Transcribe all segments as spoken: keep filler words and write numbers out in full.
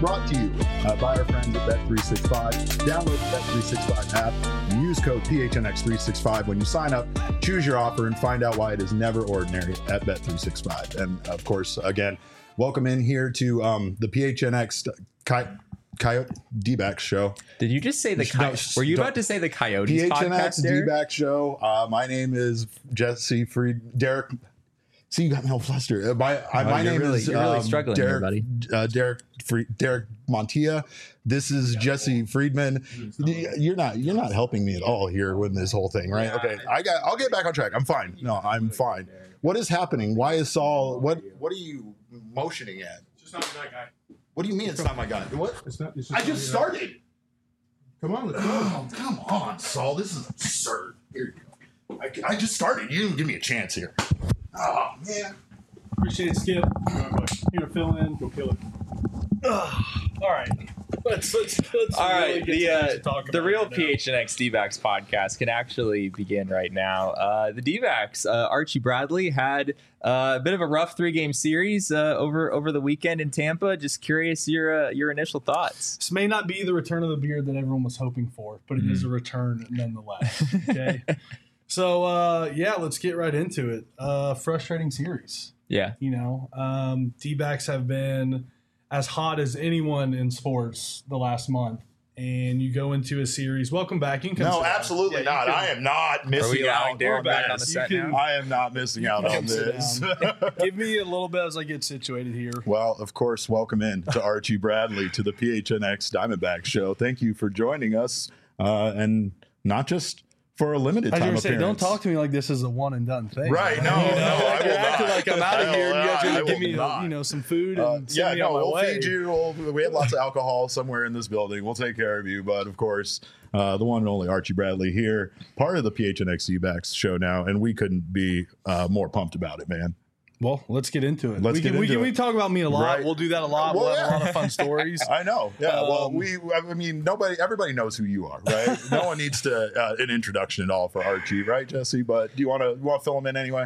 brought to you uh, by our friends at Bet three sixty-five. Download the Bet three sixty-five app and use code P H N X three sixty-five when you sign up. Choose your offer and find out why it is never ordinary at Bet three sixty-five. And of course, again, welcome in here to um, the P H N X Coy- Coyote D-Backs show. Did you just say the No, Coyotes? Were you about to say the Coyotes P H N X podcast, Derek? D-Backs show. Uh, my name is Jesse Fried. Derek. See, you got me all flustered. Uh, my uh, Oh, my you're name really- is you're really um, struggling Derek, here, buddy. Uh, Derek Fried, Derek Montilla. This is Jesse Friedman. You're not you're not helping me at all here with this whole thing, right? Okay, I got. I'll get back on track. I'm fine. No, I'm fine. What is happening? Why is Saul? What What are you motioning at? It's just not that guy. What do you mean it's not my guy? What? It's not. It's just I just started. Come on, let's go. Oh, come on, Saul. This is absurd. Here you go. I, I just started. You didn't give me a chance here. Oh, man. Appreciate it, Skip. Here to fill in. Go kill it. Ugh. All right. Let's let's let's. All really right, get the to what uh, to talk the about real right now. P H N X D-Backs podcast can actually begin right now. Uh, the D-Backs, uh, Archie Bradley had uh, a bit of a rough three-game series uh, over over the weekend in Tampa. Just curious your uh, your initial thoughts. This may not be the return of the beard that everyone was hoping for, but it Mm-hmm. is a return nonetheless. Okay. So uh, yeah, let's get right into it. Uh, frustrating series. Yeah, You know, um, D-backs have been as hot as anyone in sports the last month. And you go into a series. Welcome back. You can come No, sit down. absolutely Yeah, you not. can- I am not are we missing allowing out Derek on back on the this. set You can- now? I am not missing out on Come sit this. down. Give me a little bit as I get situated here. Well, of course, welcome in to Archie Bradley to the P H N X Diamondback show. Thank you for joining us, uh, and not just for a limited I was time going to say, don't appearance. talk to me like this is a one and done thing. Right, no, You know, no, I you're will acting not. like I'm out I of here. will And you guys not. are I going to will give me, not. you know, some food Uh, and send yeah, me no, on my we'll way. feed you. We'll, we have lots of alcohol somewhere in this building. We'll take care of you. But of course, uh, the one and only Archie Bradley here, part of the P H N X D-Backs show now, and we couldn't be uh, more pumped about it, man. Well, let's get into it. Let's we get can, we into can it. we talk about me a lot. Right. We'll do that a lot. Well, we'll have yeah. a lot of fun stories. I know. Yeah. well, Um, we. I mean, nobody. Everybody knows who you are, right? No one needs to uh, an introduction at all for Archie, right, Jesse? But do you want to want to fill him in anyway?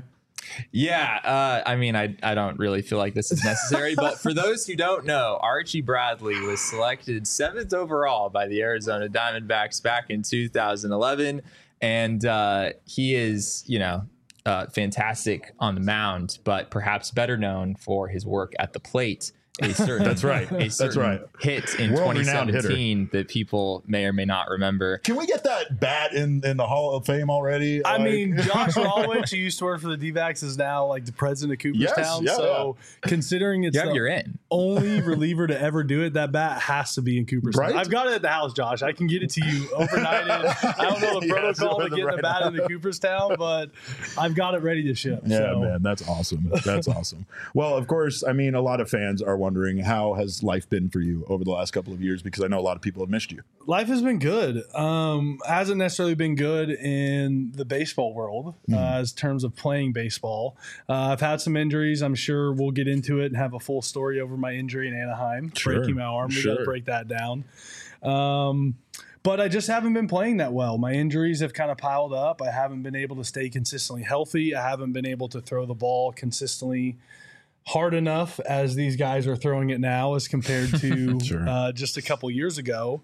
Yeah, uh, I mean, I, I don't really feel like this is necessary, but for those who don't know, Archie Bradley was selected seventh overall by the Arizona Diamondbacks back in two thousand eleven, and uh, he is, you know, uh, fantastic on the mound, but perhaps better known for his work at the plate. A certain, That's right. A That's certain right. hit in twenty World-renowned hitter. seventeen that people may or may not remember. Can we get that bat in, in the Hall of Fame already? I Like- mean, Josh Rawlins, who used to work for the D-backs, is now like the president of Cooperstown. Yes, yeah, so considering it's Yeah, the you're in. only reliever to ever do it, that bat has to be in Cooperstown. Right? I've got it at the house, Josh. I can get it to you overnighted. I don't know the Yes, protocol with to the get the right bat amount. into Cooperstown, but I've got it ready to ship. Yeah, so. man, that's awesome. That's awesome. Well, of course, I mean, a lot of fans are wondering, how has life been for you over the last couple of years? Because I know a lot of people have missed you. Life has been good. Um, hasn't necessarily been good in the baseball world Hmm. uh, as terms of playing baseball. Uh, I've had some injuries. I'm sure we'll get into it and have a full story over my injury in Anaheim, Sure, breaking my arm. We got sure. to break that down. Um, but I just haven't been playing that well. My injuries have kind of piled up. I haven't been able to stay consistently healthy. I haven't been able to throw the ball consistently hard enough as these guys are throwing it now as compared to Sure. uh, just a couple years ago.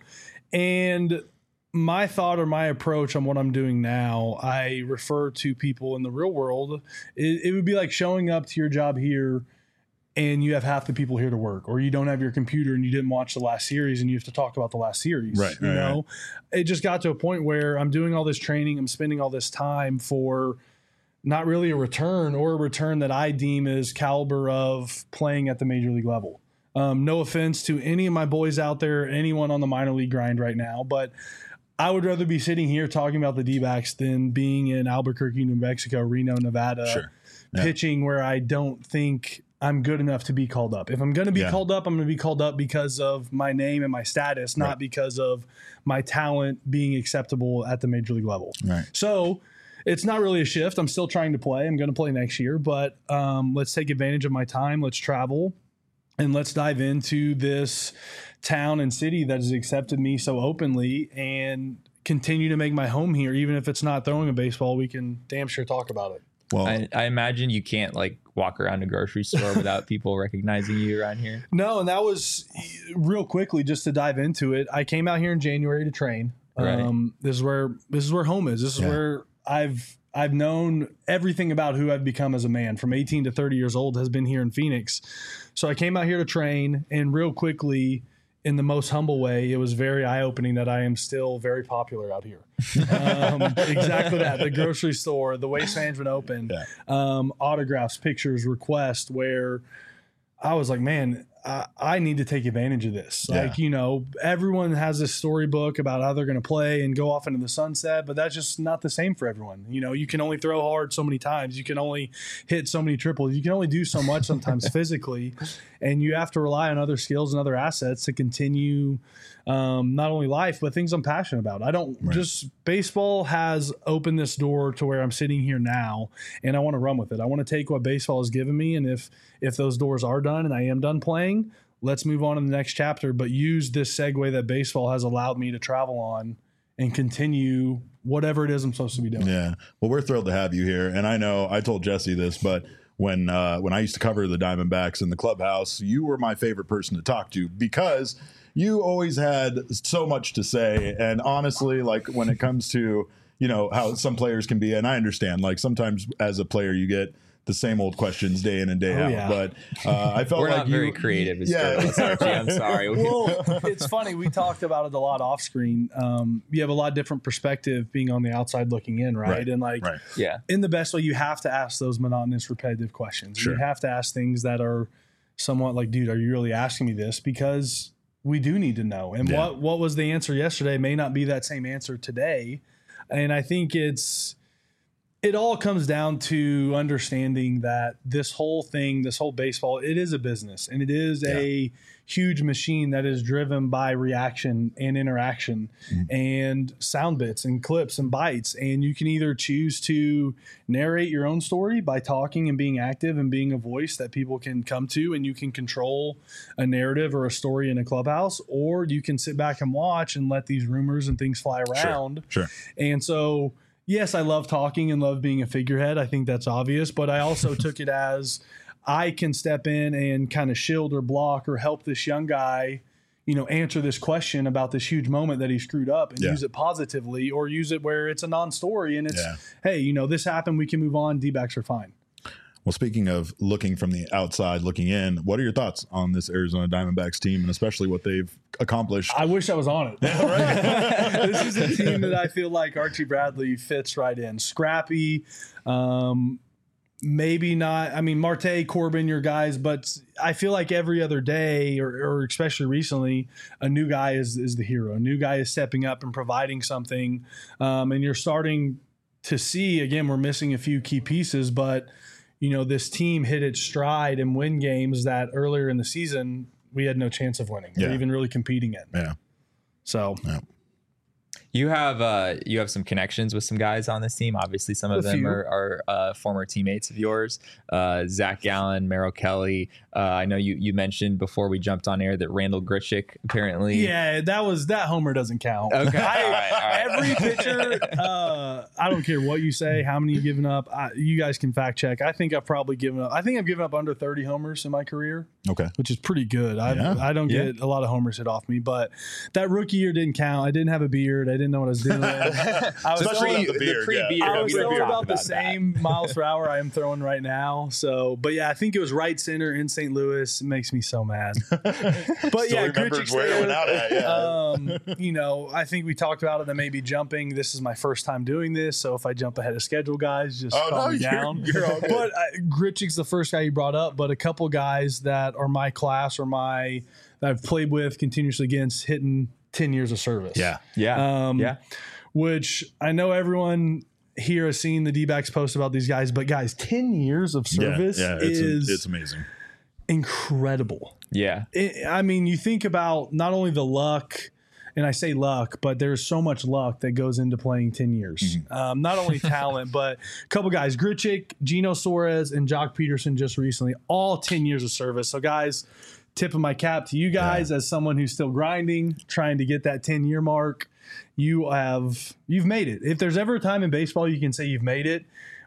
And my thought or my approach on what I'm doing now, I refer to people in the real world. It, it would be like showing up to your job here and you have half the people here to work, or you don't have your computer and you didn't watch the last series and you have to talk about the last series. Right, You right, know, it just got to a point where I'm doing all this training, I'm spending all this time for not really a return, or a return that I deem as caliber of playing at the major league level. Um, no offense to any of my boys out there, anyone on the minor league grind right now, but I would rather be sitting here talking about the D-backs than being in Albuquerque, New Mexico, Reno, Nevada, Sure. Yeah. pitching where I don't think I'm good enough to be called up. If I'm going to be Yeah. called up, I'm going to be called up because of my name and my status, not Right. because of my talent being acceptable at the major league level. Right. So it's not really a shift. I'm still trying to play. I'm going to play next year, but um, let's take advantage of my time. Let's travel and let's dive into this town and city that has accepted me so openly and continue to make my home here. Even if it's not throwing a baseball, we can damn sure talk about it. Well, I, I imagine you can't like walk around a grocery store without people recognizing you around here. No, and that was real quickly just to dive into it. I came out here in January to train. Right. Um, this is where this is where home is. This is Yeah. where I've I've known everything about who I've become as a man. From eighteen to thirty years old has been here in Phoenix. So I came out here to train, and real quickly, in the most humble way, it was very eye-opening that I am still very popular out here. Um, exactly that. The grocery store, the Waste Management Open, Yeah. um, autographs, pictures, requests, where I was like, man, I, I need to take advantage of this. Yeah. Like, you know, everyone has this storybook about how they're going to play and go off into the sunset, but that's just not the same for everyone. You know, you can only throw hard so many times. You can only hit so many triples. You can only do so much sometimes physically, and you have to rely on other skills and other assets to continue um, not only life, but things I'm passionate about. I don't Right. just baseball has opened this door to where I'm sitting here now, and I want to run with it. I want to take what baseball has given me, and if if those doors are done and I am done playing, let's move on to the next chapter. But use this segue that baseball has allowed me to travel on and continue whatever it is I'm supposed to be doing. Yeah. Well, we're thrilled to have you here. And I know I told Jesse this, but when uh, when I used to cover the Diamondbacks in the clubhouse, you were my favorite person to talk to because you always had so much to say. And honestly, like when it comes to, you know, how some players can be, and I understand, like sometimes as a player, you get the same old questions day in and day Oh, out. yeah. But uh, I felt We're like not you, very creative as Yeah. journalists, Archie. I'm sorry. Well, it's funny. We talked about it a lot off screen. Um, you have a lot different perspective being on the outside looking in, right? Right. And like Right. Yeah. in the best way, you have to ask those monotonous, repetitive questions. Sure. You have to ask things that are somewhat like, dude, are you really asking me this? Because we do need to know. And Yeah. what what was the answer yesterday may not be that same answer today. And I think it's it all comes down to understanding that this whole thing, this whole baseball, it is a business, and it is Yeah. a huge machine that is driven by reaction and interaction Mm-hmm. and sound bits and clips and bites. And you can either choose to narrate your own story by talking and being active and being a voice that people can come to, and you can control a narrative or a story in a clubhouse, or you can sit back and watch and let these rumors and things fly around. Sure. And so, yes, I love talking and love being a figurehead. I think that's obvious, but I also took it as I can step in and kind of shield or block or help this young guy, you know, answer this question about this huge moment that he screwed up and Yeah. use it positively, or use it where it's a non-story and it's, Yeah. hey, you know, this happened, we can move on. D-backs are fine. Well, speaking of looking from the outside looking in, what are your thoughts on this Arizona Diamondbacks team and especially what they've accomplished? I wish I was on it. This is a team that I feel like Archie Bradley fits right in. Scrappy, um, maybe not. I mean, Marte, Corbin, your guys, but I feel like every other day, or, or especially recently, a new guy is is the hero. A new guy is stepping up and providing something, um, and you're starting to see again. We're missing a few key pieces, but you know, this team hit its stride and win games that earlier in the season we had no chance of winning Yeah. or even really competing in. Yeah. So Yeah. You have uh, you have some connections with some guys on this team. Obviously, some of A them few. are, are uh, former teammates of yours. Uh, Zach Gallen, Merrill Kelly. Uh, I know you you mentioned before we jumped on air that Randall Grichuk apparently. yeah, that was that homer doesn't count. Okay. I- all right, all right. Every pitcher, uh, I don't care what you say, how many you've given up. I, you guys can fact check. I think I've probably given up. I think I've given up under thirty homers in my career, Okay. which is pretty good. I Yeah. I don't Yeah. get a lot of homers hit off me, but that rookie year didn't count. I didn't have a beard. I didn't know what I was doing. I was Especially throwing, with the beard, pre-beard. yeah. I was we don't throwing talk about the about that. same miles per hour I am throwing right now. So, but yeah, I think it was right center in Saint Louis. It makes me so mad. But Still yeah, remembers Grichuk's where it there. went out at, yeah. Um, you know, I think we talked about it that maybe jumping. This is my first time doing this, so if I jump ahead of schedule, guys, just Oh, calm no, me you're- down. you're all good. But uh, Grichuk's the first guy you brought up, but a couple guys that are my class or my that I've played with continuously against hitting ten years of service. Yeah. Yeah. Um, yeah. Which I know everyone here has seen the D-backs post about these guys, but guys, ten years of service yeah, yeah, it's, is it's amazing. incredible. Yeah. It, I mean, you think about not only the luck, and I say luck, but there's so much luck that goes into playing ten years. Um, not only talent, but a couple guys, Grichuk, Gino Suarez, and Jock Peterson just recently, all ten years of service. So guys, tip of my cap to you guys as someone who's still grinding, trying to get that ten year mark. You have, you've made it. If there's ever a time in baseball you can say you've made it,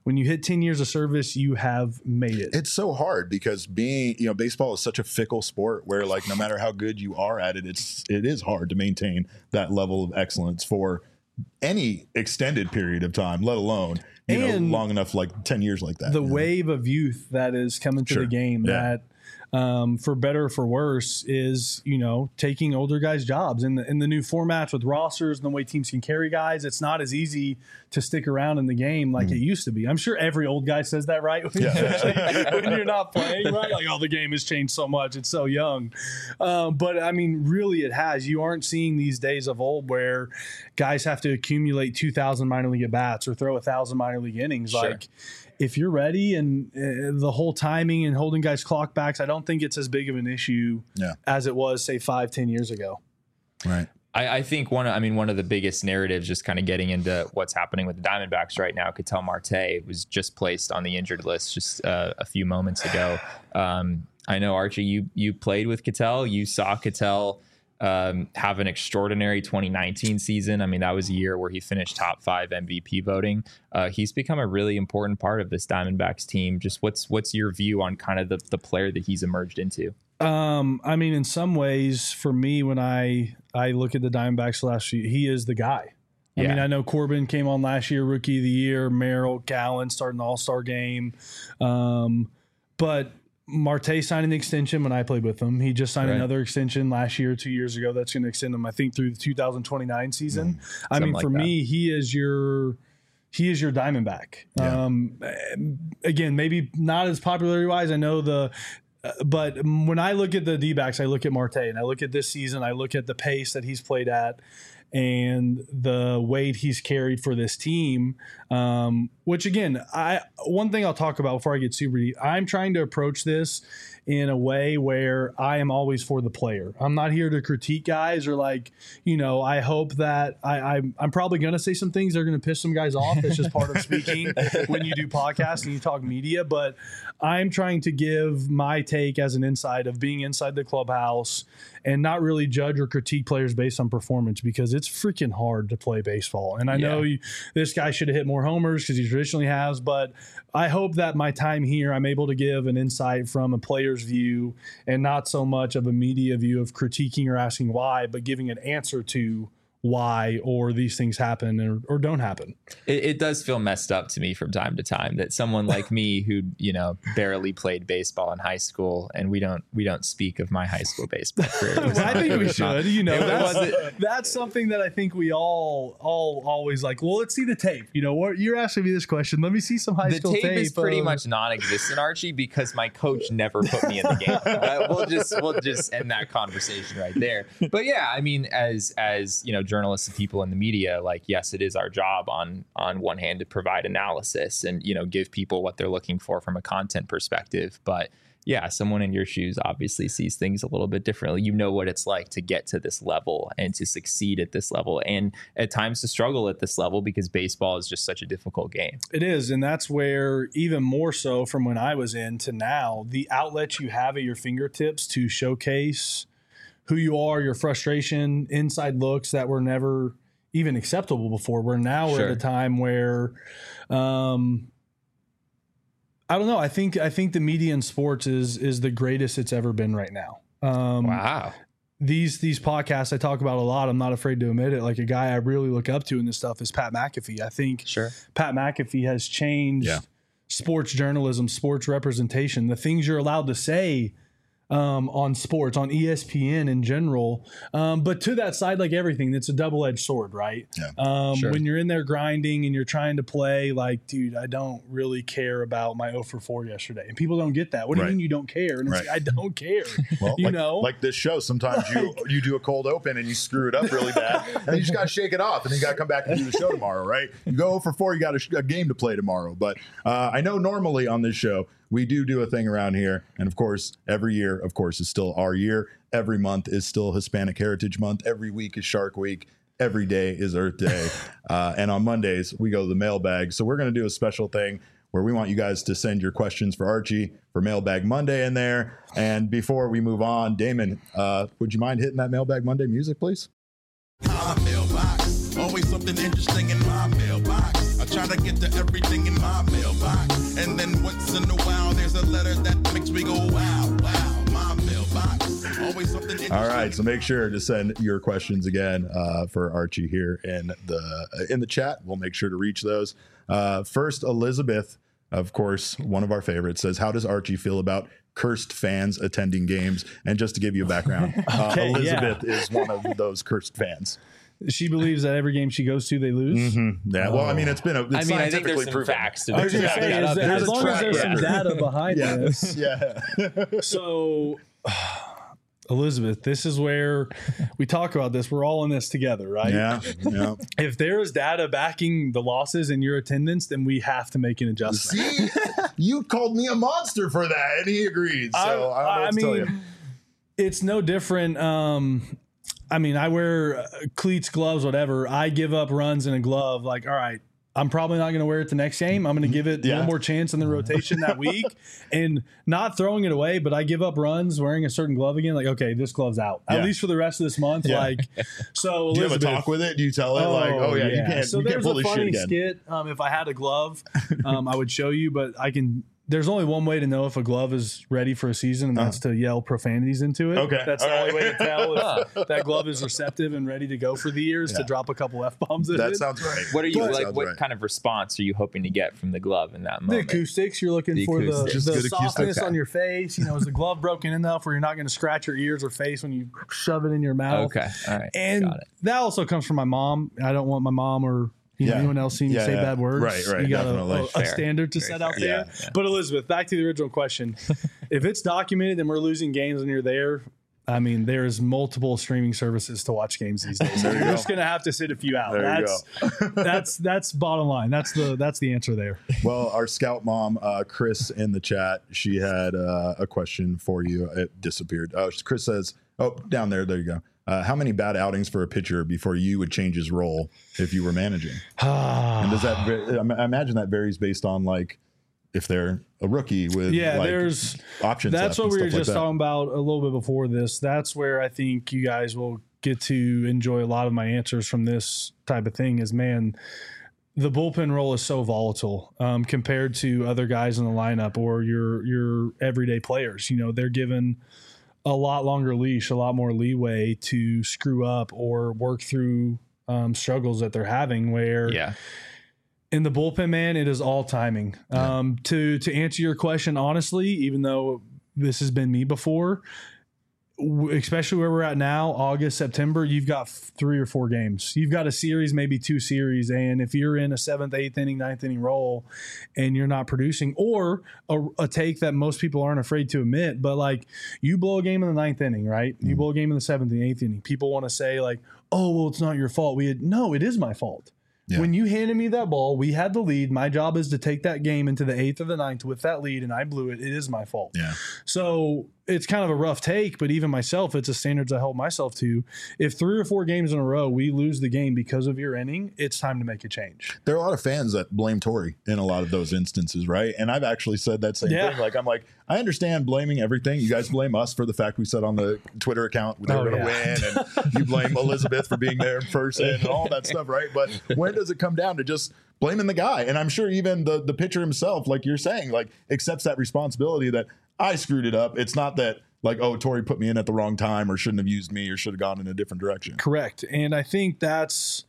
when you hit ten years of service, you have made it. It's so hard because being, you know, baseball is such a fickle sport where, like, no matter how good you are at it, it's it is hard to maintain that level of excellence for any extended period of time, let alone, you And know, long enough, like ten years like that. The you know? wave of youth that is coming to Sure. the game Yeah. that, um, for better or for worse, is, you know, taking older guys' jobs in the in the new formats with rosters and the way teams can carry guys. It's not as easy to stick around in the game like Mm-hmm. it used to be. I'm sure every old guy says that, right? Yeah. When you're not playing, right? Like, oh, the game has changed so much. It's so young. Um, but I mean, really, it has. You aren't seeing these days of old where guys have to accumulate two thousand minor league at bats or throw one thousand minor league innings. Sure. Like, if you're ready and uh, the whole timing and holding guys' clock backs, I don't think it's as big of an issue Yeah. as it was, say, five, ten years ago. Right. I, I think one, I mean, one of the biggest narratives, just kind of getting into what's happening with the Diamondbacks right now, Ketel Marte was just placed on the injured list just uh, a few moments ago. Um, I know, Archie, you you played with Ketel. You saw Ketel um, have an extraordinary twenty nineteen season. I mean, that was a year where he finished top five M V P voting. Uh, he's become a really important part of this Diamondbacks team. Just what's what's your view on kind of the, the player that he's emerged into? Um, I mean, in some ways, for me, when I I look at the Diamondbacks last year, he is the guy. I Yeah. mean, I know Corbin came on last year, Rookie of the Year. Merrill, Gallen starting the All-Star game. Um, but Marte signed an extension when I played with him. He just signed Right. another extension last year, two years ago. That's going to extend him, I think, through the two thousand twenty-nine season. I Something mean, like for that. me, he is your he is your Diamondback. Yeah. Um, again, maybe not as popularity-wise. I know the uh, but when I look at the D-backs, I look at Marte, and I look at this season, I look at the pace that he's played at and the weight he's carried for this team. Um, which again, I one thing I'll talk about before I get super deep, I'm trying to approach this in a way where I am always for the player. I'm not here to critique guys or like, you know, I hope that I, I'm, I'm probably going to say some things that are going to piss some guys off. That's just part of speaking when you do podcasts and you talk media. But I'm trying to give my take as an inside of being inside the clubhouse and not really judge or critique players based on performance, because it's freaking hard to play baseball. And I Yeah. know you, this guy should have hit more homers because he traditionally has, but I hope that my time here, I'm able to give an insight from a player's view and not so much of a media view of critiquing or asking why, but giving an answer to why or these things happen or, or don't happen. It, it does feel messed up to me from time to time that someone like me who, you know, barely played baseball in high school, and we don't we don't speak of my high school baseball career. It was Well, I not- think it we was not- should. You know, it that's, wasn't- that's something that I think we all all always like. Well, let's see the tape. You know, what you're asking me this question. Let me see some high the school tape, tape. is pretty of- much non-existent, Archie, because my coach never put me in the game. Uh, we'll just we'll just end that conversation right there. But yeah, I mean, as as you know, journalists and people in the media, like, yes, it is our job on on one hand to provide analysis and, you know, give people what they're looking for from a content perspective. But yeah, someone in your shoes obviously sees things a little bit differently. You know what it's like to get to this level and to succeed at this level, and at times to struggle at this level, because baseball is just such a difficult game. It is, and that's where, even more so from when I was in to now, the outlets you have at your fingertips to showcase who you are, your frustration, inside looks that were never even acceptable before. We're now we're Sure. at a time where, um, I don't know. I think I think the media in sports is is the greatest it's ever been right now. Um, Wow. These these podcasts I talk about a lot. I'm not afraid to admit it. Like, a guy I really look up to in this stuff is Pat McAfee. I think Sure. Pat McAfee has changed Yeah. sports journalism, sports representation, the things you're allowed to say um, on sports, on E S P N in general. Um, but to that side, like everything, it's a double-edged sword, right? Yeah. Um, Sure. When you're in there grinding and you're trying to play, like, dude, I don't really care about my oh for four yesterday. And people don't get that. What do Right. you mean you don't care? And it's Right. like, I don't care. Well, you like, know? like this show, sometimes you you do a cold open and you screw it up really bad, and you just got to shake it off, and you got to come back and do the show tomorrow, right? You go oh for four, you got a, sh- a game to play tomorrow. But uh, I know normally on this show we do do a thing around here, and of course, every year, of course, is still our year. Every month is still Hispanic Heritage Month. Every week is Shark Week. Every day is Earth Day, uh, and on Mondays we go to the mailbag. So we're going to do a special thing where we want you guys to send your questions for Archie for Mailbag Monday in there. And before we move on, Damon, uh, would you mind hitting that Mailbag Monday music, please? My mailbox, always something interesting in my mailbox. I try to get to everything in my mailbox. And then once in a while, there's a letter that makes me go, wow, wow, my mailbox. Always something interesting. All right, so make sure to send your questions again uh, for Archie here in the in the chat. We'll make sure to reach those. Uh, first, Elizabeth, of course, one of our favorites, says, how does Archie feel about cursed fans attending games? And just to give you a background, uh, Okay, Elizabeth yeah. is one of those cursed fans. She believes that every game she goes to, they lose. Mm-hmm. Yeah, well, I mean, it's been a, it's I mean, I think scientifically there's some proven. facts to I was back gonna say, that is up. that There's as a long as track there's some record. data behind Yeah, this. yeah. So, Elizabeth, this is where we talk about this. We're all in this together, right? Yeah, yeah. If there is data backing the losses in your attendance, then we have to make an adjustment. See, you called me a monster for that, and he agreed. So I, don't know I, what I to tell you. mean, it's no different. Um, I mean, I wear uh, cleats, gloves, whatever. I give up runs in a glove. Like, all right, I'm probably not going to wear it the next game. I'm going to give it Yeah. one more chance in the rotation that week, and not throwing it away. But I give up runs wearing a certain glove again. Like, okay, this glove's out at Yeah. least for the rest of this month. Yeah. Like, so Do you have a Elizabeth, talk with it? Do you tell it like, oh yeah, you can't, So you can't there's pull a this shit funny again? skit. Um, if I had a glove, um, I would show you, but I can. There's only one way to know if a glove is ready for a season, and that's to yell profanities into it. Okay. That's All the only right. way to tell if that glove is receptive and ready to go for the years Yeah. to drop a couple f bombs. In That it. sounds right. What are you That like? sounds What right. kind of response are you hoping to get from the glove in that The moment? acoustics, you're looking The for the, acoustics. Just the good acoustics. softness Okay. on your face. You know, is the glove broken enough where you're not going to scratch your ears or face when you shove it in your mouth? Okay, all right, And got it. that also comes from my mom. I don't want my mom or you know, Yeah. anyone else seeing me Yeah, say yeah. bad words. Right, right, You got a, definitely. a, a Fair. standard to Very set out fair. there. Yeah, yeah. But Elizabeth, back to the original question. If it's documented and we're losing games and you're there, I mean, there's multiple streaming services to watch games these days. So There you you're go. just gonna have to sit a few out. There you that's that's that's bottom line. That's the that's the answer there. Well, our scout mom, uh, Chris, in the chat, she had uh, a question for you. It disappeared. Oh, Chris says, "Oh, down there, there you go. Uh, how many bad outings for a pitcher before you would change his role if you were managing?" And does that? va- I imagine that varies based on like if they're a rookie with Yeah, like, there's options. That's left what and we were stuff like just that. talking about a little bit before this. That's where I think you guys will get to enjoy a lot of my answers from this type of thing. Is man, the bullpen role is so volatile um, compared to other guys in the lineup or your your everyday players. You know, they're given a lot longer leash, a lot more leeway to screw up or work through um, struggles that they're having. Where Yeah. in the bullpen, man, it is all timing. Yeah. Um, to to answer your question honestly, even though this has been me before, w- especially where we're at now, August, September, you've got f- three or four games. You've got a series, maybe two series, and if you're in a seventh, eighth inning, ninth inning role, and you're not producing, or a, a take that most people aren't afraid to admit, but like you blow a game in the ninth inning, right? You blow a game in the seventh and eighth inning. People want to say like, "Oh, well, it's not your fault." We had no, it is my fault. Yeah. When you handed me that ball, we had the lead. My job is to take that game into the eighth or the ninth with that lead, and I blew it. It is my fault. Yeah. So it's kind of a rough take, but even myself, it's a standards I hold myself to. If three or four games in a row we lose the game because of your inning, it's time to make a change. There are a lot of fans that blame Torrey in a lot of those instances, right? And I've actually said that same Yeah. thing. Like, I'm like, I understand blaming everything. You guys blame us for the fact we said on the Twitter account they Oh, were going to yeah. win, and you blame Elizabeth for being there in person and all that stuff, right? But when does it come down to just blaming the guy? And I'm sure even the the pitcher himself, like you're saying, like accepts that responsibility that I screwed it up. It's not that like, oh, Torrey put me in at the wrong time or shouldn't have used me or should have gone in a different direction. Correct. And I think that's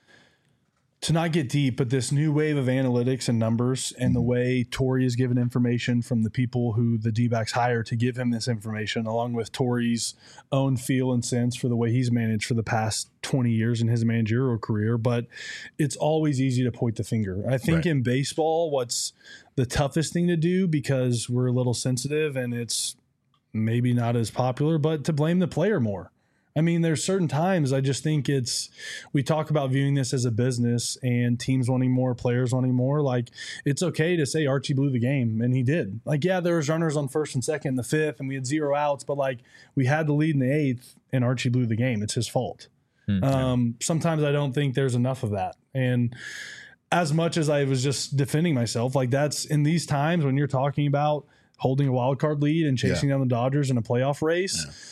to not get deep, but this new wave of analytics and numbers and the way Torrey is given information from the people who the D-backs hire to give him this information, along with Torrey's own feel and sense for the way he's managed for the past twenty years in his managerial career. But it's always easy to point the finger. I think Right. in baseball, what's the toughest thing to do, because we're a little sensitive and it's maybe not as popular, but to blame the player more. I mean, there's certain times I just think it's, we talk about viewing this as a business and teams wanting more, players wanting more. Like, it's okay to say Archie blew the game, and he did. Like, yeah, there was runners on first and second in the fifth, and we had zero outs, but like we had the lead in the eighth, and Archie blew the game. It's his fault. Hmm. Um, sometimes I don't think there's enough of that. And as much as I was just defending myself, like that's in these times when you're talking about holding a wild card lead and chasing down the Dodgers in a playoff race. Yeah.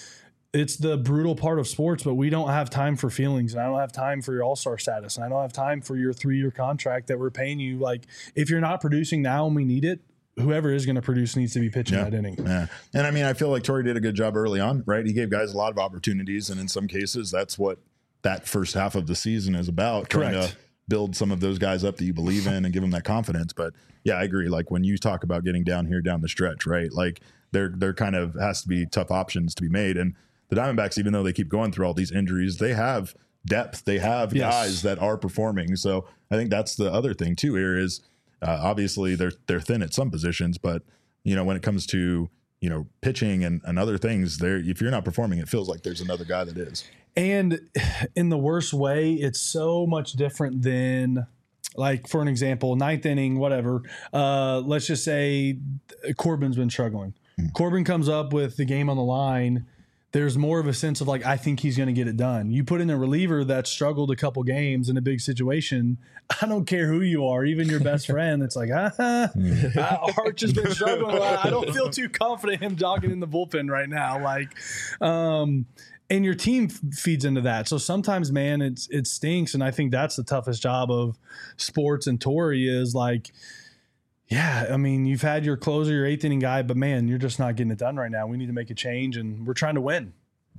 it's the brutal part of sports, but we don't have time for feelings, and I don't have time for your all-star status, and I don't have time for your three-year contract that we're paying you. Like, if you're not producing now and we need it, whoever is going to produce needs to be pitching yeah. that inning. Yeah. And I mean, I feel like Torrey did a good job early on, right? He gave guys a lot of opportunities, and in some cases, that's what that first half of the season is about. Correct. Trying to build some of those guys up that you believe in and give them that confidence. But yeah, I agree. Like when you talk about getting down here down the stretch, right? Like there, there kind of has to be tough options to be made. And the Diamondbacks, even though they keep going through all these injuries, they have depth. They have yes. guys that are performing. So I think that's the other thing too here is uh, obviously they're they're thin at some positions, but you know when it comes to you know pitching and, and other things, there if you're not performing, it feels like there's another guy that is. And in the worst way, it's so much different than. Like, for an example, ninth inning, whatever. Uh, let's just say Corbin's been struggling. Mm. Corbin comes up with the game on the line. There's more of a sense of like, I think he's going to get it done. You put in a reliever that struggled a couple games in a big situation. I don't care who you are, even your best friend. It's like, ah, mm. Arch has been struggling. I don't feel too confident him jogging in the bullpen right now. Like, um, and your team feeds into that. So sometimes, man, it's it stinks. And I think that's the toughest job of sports and Torrey is like, yeah, I mean, you've had your closer, your eighth inning guy, but man, you're just not getting it done right now. We need to make a change, and we're trying to win.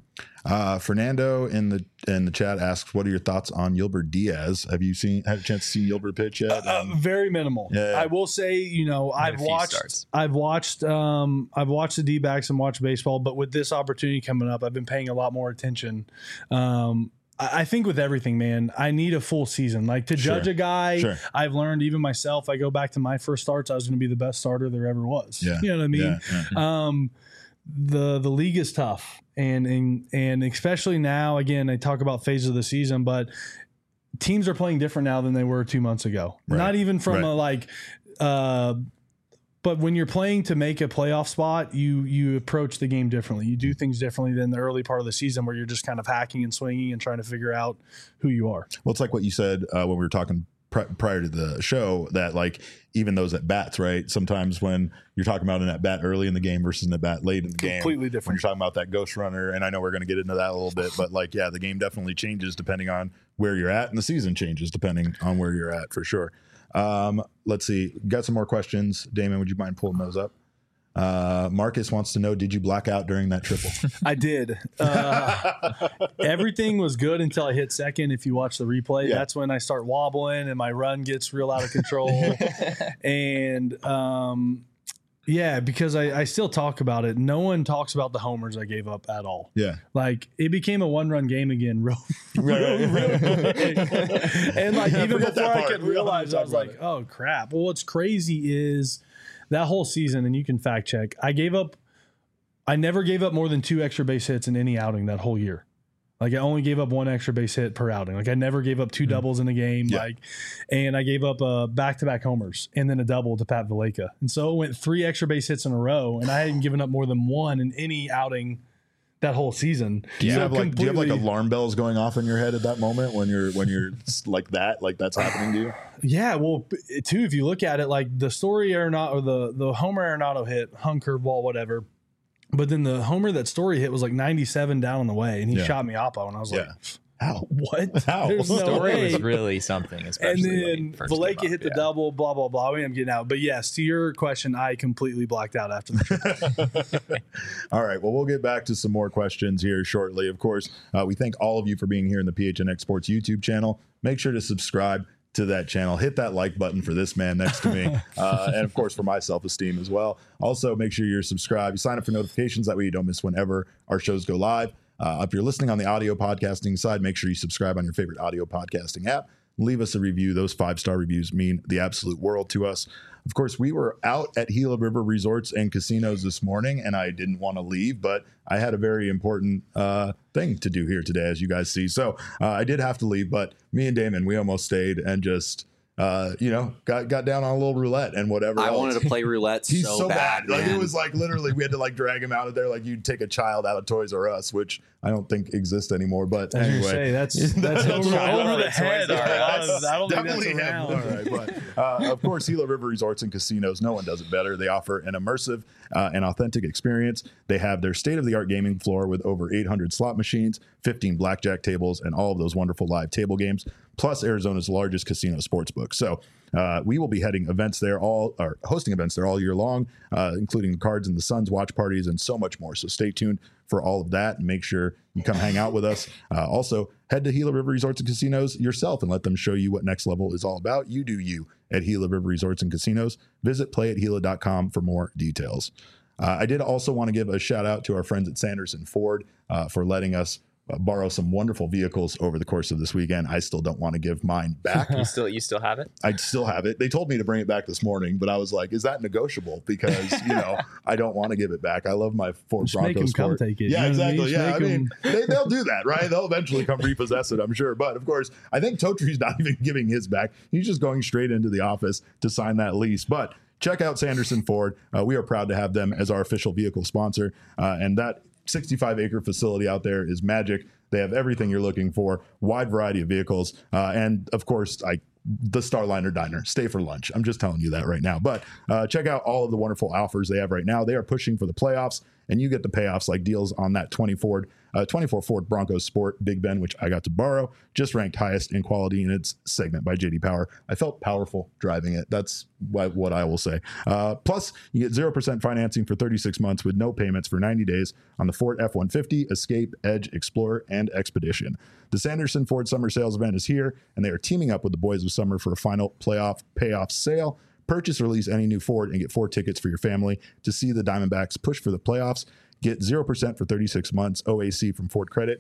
Uh, Fernando in the in the chat asks, "What are your thoughts on Yolbert Diaz? Have you seen had a chance to see Yolbert pitch yet?" Um, uh, very minimal. Yeah, yeah. I will say, you know, I've watched, starts. I've watched, um, I've watched the D-backs and watched baseball, but with this opportunity coming up, I've been paying a lot more attention. Um, I think with everything, man, I need a full season. Like to Sure. judge a guy, Sure. I've learned even myself. I go back to my first starts, I was going to be the best starter there ever was. Yeah. You know what I mean? Yeah, yeah. Um, the the league is tough, and and and especially now. Again, they talk about phases of the season, but teams are playing different now than they were two months ago. Right. Not even from Right. a like. Uh, But when you're playing to make a playoff spot, you you approach the game differently. You do things differently than the early part of the season where you're just kind of hacking and swinging and trying to figure out who you are. Well, it's like what you said uh, when we were talking pri- prior to the show that like even those at bats, right? Sometimes when you're talking about an at bat early in the game versus an at bat late in the game, Completely when different. you're talking about that ghost runner, and I know we're going to get into that a little bit, but like yeah, the game definitely changes depending on where you're at, and the season changes depending on where you're at for sure. Um, let's see. Got some more questions. Damon, would you mind pulling those up? Uh, Marcus wants to know, did you black out during that triple? I did. Uh, everything was good until I hit second. If you watch the replay, Yeah. that's when I start wobbling and my run gets real out of control. and um, yeah, because I, I still talk about it. No one talks about the homers I gave up at all. Yeah. Like it became a one-run game again, real, real, real quick. And like Yeah, even forget that before I part. could We don't realize, talk I was about like, it. "Oh crap!" Well, what's crazy is that whole season, and you can fact check. I gave up. I never gave up more than two extra base hits in any outing that whole year. Like I only gave up one extra base hit per outing. Like I never gave up two mm. doubles in a game. Yeah. Like, and I gave up uh, back-to-back homers and then a double to Pat Valleca. And so it went three extra base hits in a row, and I hadn't given up more than one in any outing that whole season. Do you So have like do you have like completely- alarm bells going off in your head at that moment when you're when you're like that like that's happening to you? Yeah, well, b- too, if you look at it, like the Story Arenado or the the Homer Arenado hit, hung curveball, whatever. But then the homer that Story hit was like ninety-seven down on the way, and he Yeah. shot me oppo, and I was Yeah. like, How? "What? How? There's no Story way." was really something, And especially when then he first Valleca came up, hit the yeah. double, blah blah blah. We ended up getting out, but yes, to your question, I completely blacked out after the All right. Well, we'll get back to some more questions here shortly. Of course, uh, we thank all of you for being here in the P H N X Sports YouTube channel. Make sure to subscribe to that channel. Hit that like button for this man next to me. Uh, and of course, for my self-esteem as well. Also, make sure you're subscribed. You sign up for notifications. That way you don't miss whenever our shows go live. Uh, if you're listening on the audio podcasting side, make sure you subscribe on your favorite audio podcasting app. Leave us a review. Those five-star reviews mean the absolute world to us. Of course, we were out at Gila River Resorts and Casinos this morning, and I didn't want to leave, but I had a very important uh, thing to do here today, as you guys see. So uh, I did have to leave, but me and Damon, we almost stayed and just uh, you know, got got down on a little roulette and whatever. I else. wanted to play roulette He's so, so bad. bad. Like man. it was like literally we had to like drag him out of there like you'd take a child out of Toys R Us, which I don't think exists anymore. But I was anyway, gonna say, that's that's over, child over the out of head. Toys R Us. I don't think Definitely that's him. around. All right, but uh, of course, Gila River Resorts and Casinos. No one does it better. They offer an immersive uh, and authentic experience. They have their state-of-the-art gaming floor with over eight hundred slot machines, fifteen blackjack tables, and all of those wonderful live table games, plus Arizona's largest casino sportsbook. So uh, we will be heading events there all, or hosting events there all year long, uh, including the Cards and the Suns watch parties and so much more. So stay tuned for all of that and make sure you come hang out with us. Uh, also, head to Gila River Resorts and Casinos yourself and let them show you what Next Level is all about. You do you at Gila River Resorts and Casinos. Visit play at gila dot com for more details. Uh, I did also want to give a shout out to our friends at Sanderson Ford uh, for letting us uh, borrow some wonderful vehicles over the course of this weekend. I still don't want to give mine back. You still you still have it? I still have it. They told me to bring it back this morning, but I was like, is that negotiable? Because, you know, I don't want to give it back. I love my Ford Just make Bronco them come Sport. take it. Yeah, You know what I exactly. mean? Just Yeah, I make mean, they, they'll do that, right? They'll eventually come repossess it, I'm sure. But of course, I think Totree's not even giving his back. He's just going straight into the office to sign that lease. But check out Sanderson Ford. Uh, we are proud to have them as our official vehicle sponsor. Uh, and that sixty-five acre facility out there is magic. They have everything you're looking for, wide variety of vehicles. Uh, and of course, I the Starliner Diner. Stay for lunch. I'm just telling you that right now. But uh, check out all of the wonderful offers they have right now. They are pushing for the playoffs, and you get the payoffs like deals on that twenty Ford, uh, twenty-four Ford Bronco Sport Big Ben, which I got to borrow, just ranked highest in quality in its segment by J D Power. I felt powerful driving it. That's what, what I will say. Uh, plus, you get zero percent financing for thirty-six months with no payments for ninety days on the Ford F one fifty, Escape, Edge, Explorer, and Expedition. The Sanderson Ford Summer Sales event is here, and they are teaming up with the Boys of Summer for a final playoff payoff sale. Purchase or lease any new Ford and get four tickets for your family to see the Diamondbacks push for the playoffs. Get zero percent for thirty-six months, O A C from Ford Credit.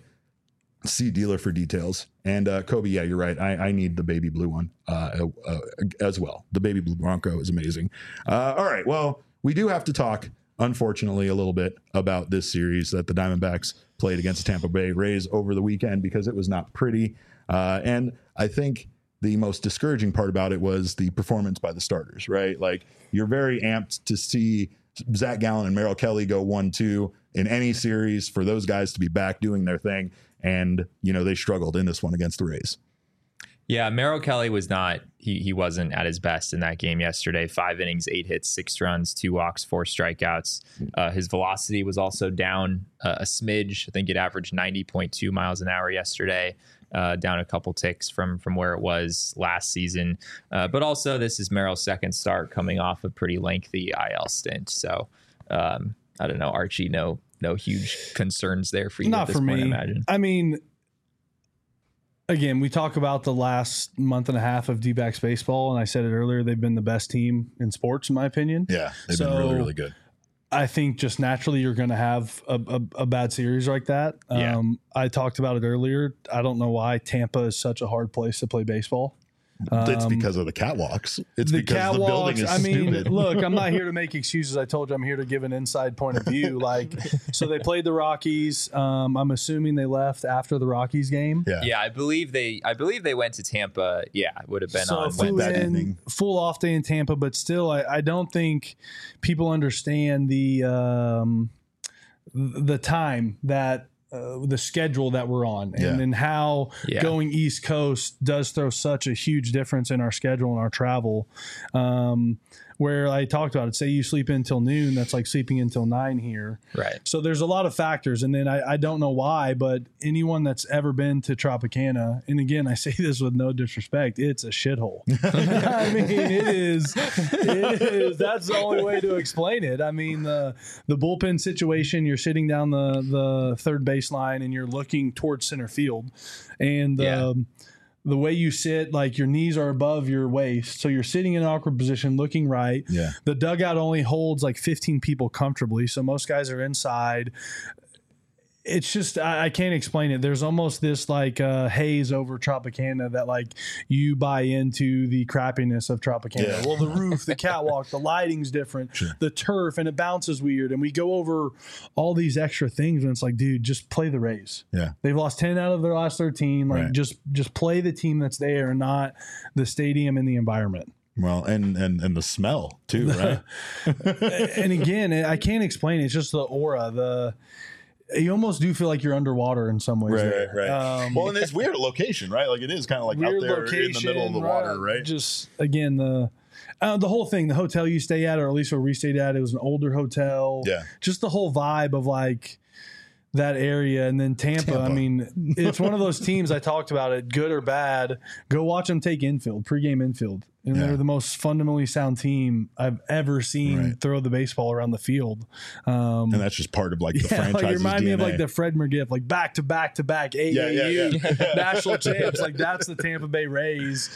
See dealer for details. And uh, Kobe, yeah, you're right. I, I need the baby blue one uh, uh, as well. The baby blue Bronco is amazing. Uh, all right, well, we do have to talk, unfortunately, a little bit about this series that the Diamondbacks played against the Tampa Bay Rays over the weekend because it was not pretty. Uh, and I think the most discouraging part about it was the performance by the starters, right? Like, you're very amped to see Zach Gallen and Merrill Kelly go one two in any series for those guys to be back doing their thing. And, you know, they struggled in this one against the Rays. Yeah, Merrill Kelly was not, he he wasn't at his best in that game yesterday. Five innings, eight hits, six runs, two walks, four strikeouts. Uh, his velocity was also down uh, a smidge. I think it averaged ninety point two miles an hour yesterday, uh, down a couple ticks from from where it was last season. Uh, but also, this is Merrill's second start coming off a pretty lengthy I L stint. So, um, I don't know, Archie, no no huge concerns there for you Not at this for point, me. I imagine. I mean, again, we talk about the last month and a half of D-backs baseball, and I said it earlier, they've been the best team in sports, in my opinion. Yeah, they've So, been really, really good. I think just naturally you're going to have a, a, a bad series like that. Yeah. Um, I talked about it earlier. I don't know why Tampa is such a hard place to play baseball. It's Um, because of the catwalks. It's the because the building catwalks. is I mean, stupid. look, I'm not here to make excuses. I told you I'm here to give an inside point of view. Like, so they played the Rockies. Um, I'm assuming they left after the Rockies game. Yeah. Yeah, I believe they. I believe they went to Tampa. Yeah, it would have been So on flew Wednesday. that in, evening. full off day in Tampa, but still, I, I don't think people understand the um, the time that. Uh, the schedule that we're on and Yeah. then how Yeah. going East Coast does throw such a huge difference in our schedule and our travel. Um, where I talked about it, say you sleep until noon, that's like sleeping until nine here. Right. So there's a lot of factors. And then I, I don't know why, but anyone that's ever been to Tropicana, and again, I say this with no disrespect, it's a shithole. I mean, it is, it is, that's the only way to explain it. I mean, the, the bullpen situation, you're sitting down the, the third baseline and you're looking towards center field. And, Yeah. um, the way you sit, like your knees are above your waist. So you're sitting in an awkward position, looking right. Yeah. The dugout only holds like fifteen people comfortably. So most guys are inside. it's just I, I can't explain it. There's almost this like uh, haze over Tropicana that like you buy into the crappiness of Tropicana. Yeah. Well, the roof, the catwalk, the lighting's different, Sure. the turf, and it bounces weird. And we go over all these extra things, and it's like, dude, just play the Rays. Yeah. They've lost ten out of their last thirteen. Like Right. just just play the team that's there, and not the stadium and the environment. Well, and and and the smell too, right? And again, I can't explain it. It's just the aura, the. You almost do feel like you're underwater in some ways. Right, there. right, right. Um, Well, and it's weird location, right? Like it is kind of like out weird there location, in the middle of the water, right? Just again, the uh, the whole thing, the hotel you stay at, or at least where we stayed at, it was an older hotel. Yeah. Just the whole vibe of like that area, and then Tampa. Tampa. I mean, it's one of those teams I talked about it, good or bad. Go watch them take infield, pregame infield. And Yeah. they're the most fundamentally sound team I've ever seen Right. throw the baseball around the field. Um, And that's just part of like the yeah, like franchise's you remind D N A. me of like the Fred McGiff, like back to back to back A A U Yeah, yeah, yeah. national champs. Like that's the Tampa Bay Rays,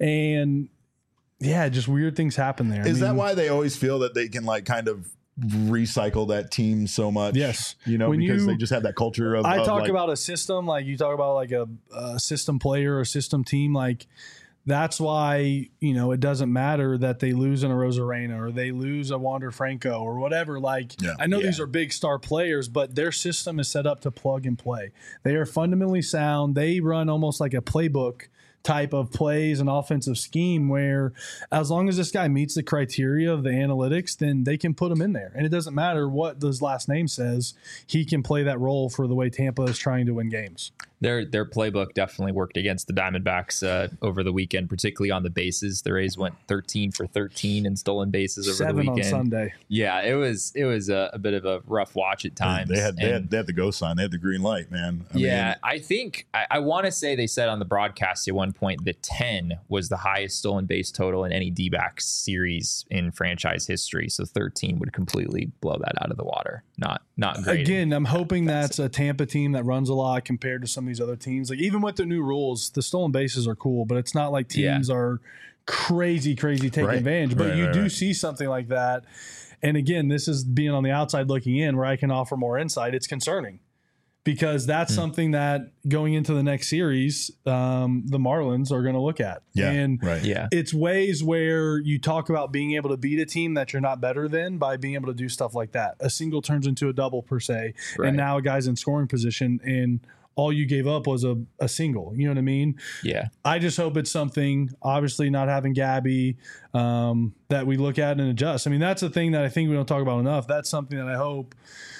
and yeah, just weird things happen there. I Is that mean, why they always feel that they can like kind of recycle that team so much? Yes. You know, When because you- they just have that culture of I of, talk like, about a system, like you talk about like a, a system player or system team, like that's why, you know, it doesn't matter that they lose in a Rosarena or they lose a Wander Franco or whatever. Like, Yeah. I know Yeah. these are big star players, but their system is set up to plug and play. They are fundamentally sound. They run almost like a playbook type of plays and offensive scheme where as long as this guy meets the criteria of the analytics, then they can put him in there. And it doesn't matter what his last name says. He can play that role for the way Tampa is trying to win games. Their their playbook definitely worked against the Diamondbacks uh, over the weekend, particularly on the bases. The Rays went thirteen for thirteen in stolen bases over Seven the on weekend. Sunday. Yeah, it was it was a, a bit of a rough watch at times. They had, they And- had they had the go sign. They had the green light, man. I yeah, mean, I think I, I want to say they said on the broadcast at one point that ten was the highest stolen base total in any D-backs series in franchise history. So thirteen would completely blow that out of the water. Not not great. Again, I'm hoping that's a Tampa team that runs a lot compared to some of these other teams. Like even with the new rules, the stolen bases are cool, but it's not like teams Yeah. are crazy, crazy taking Right. advantage. But Right, you right, do right. see something like that. And again, this is being on the outside looking in where I can offer more insight. It's concerning because that's Hmm. something that going into the next series, um, the Marlins are going to look at. yeah, And right. Yeah. it's ways where you talk about being able to beat a team that you're not better than by being able to do stuff like that. A single turns into a double per se, Right. and now a guy's in scoring position, and all you gave up was a, a single. You know what I mean? Yeah. I just hope it's something, obviously not having Gabby, um, that we look at and adjust. I mean, that's the thing that I think we don't talk about enough. That's something that I hope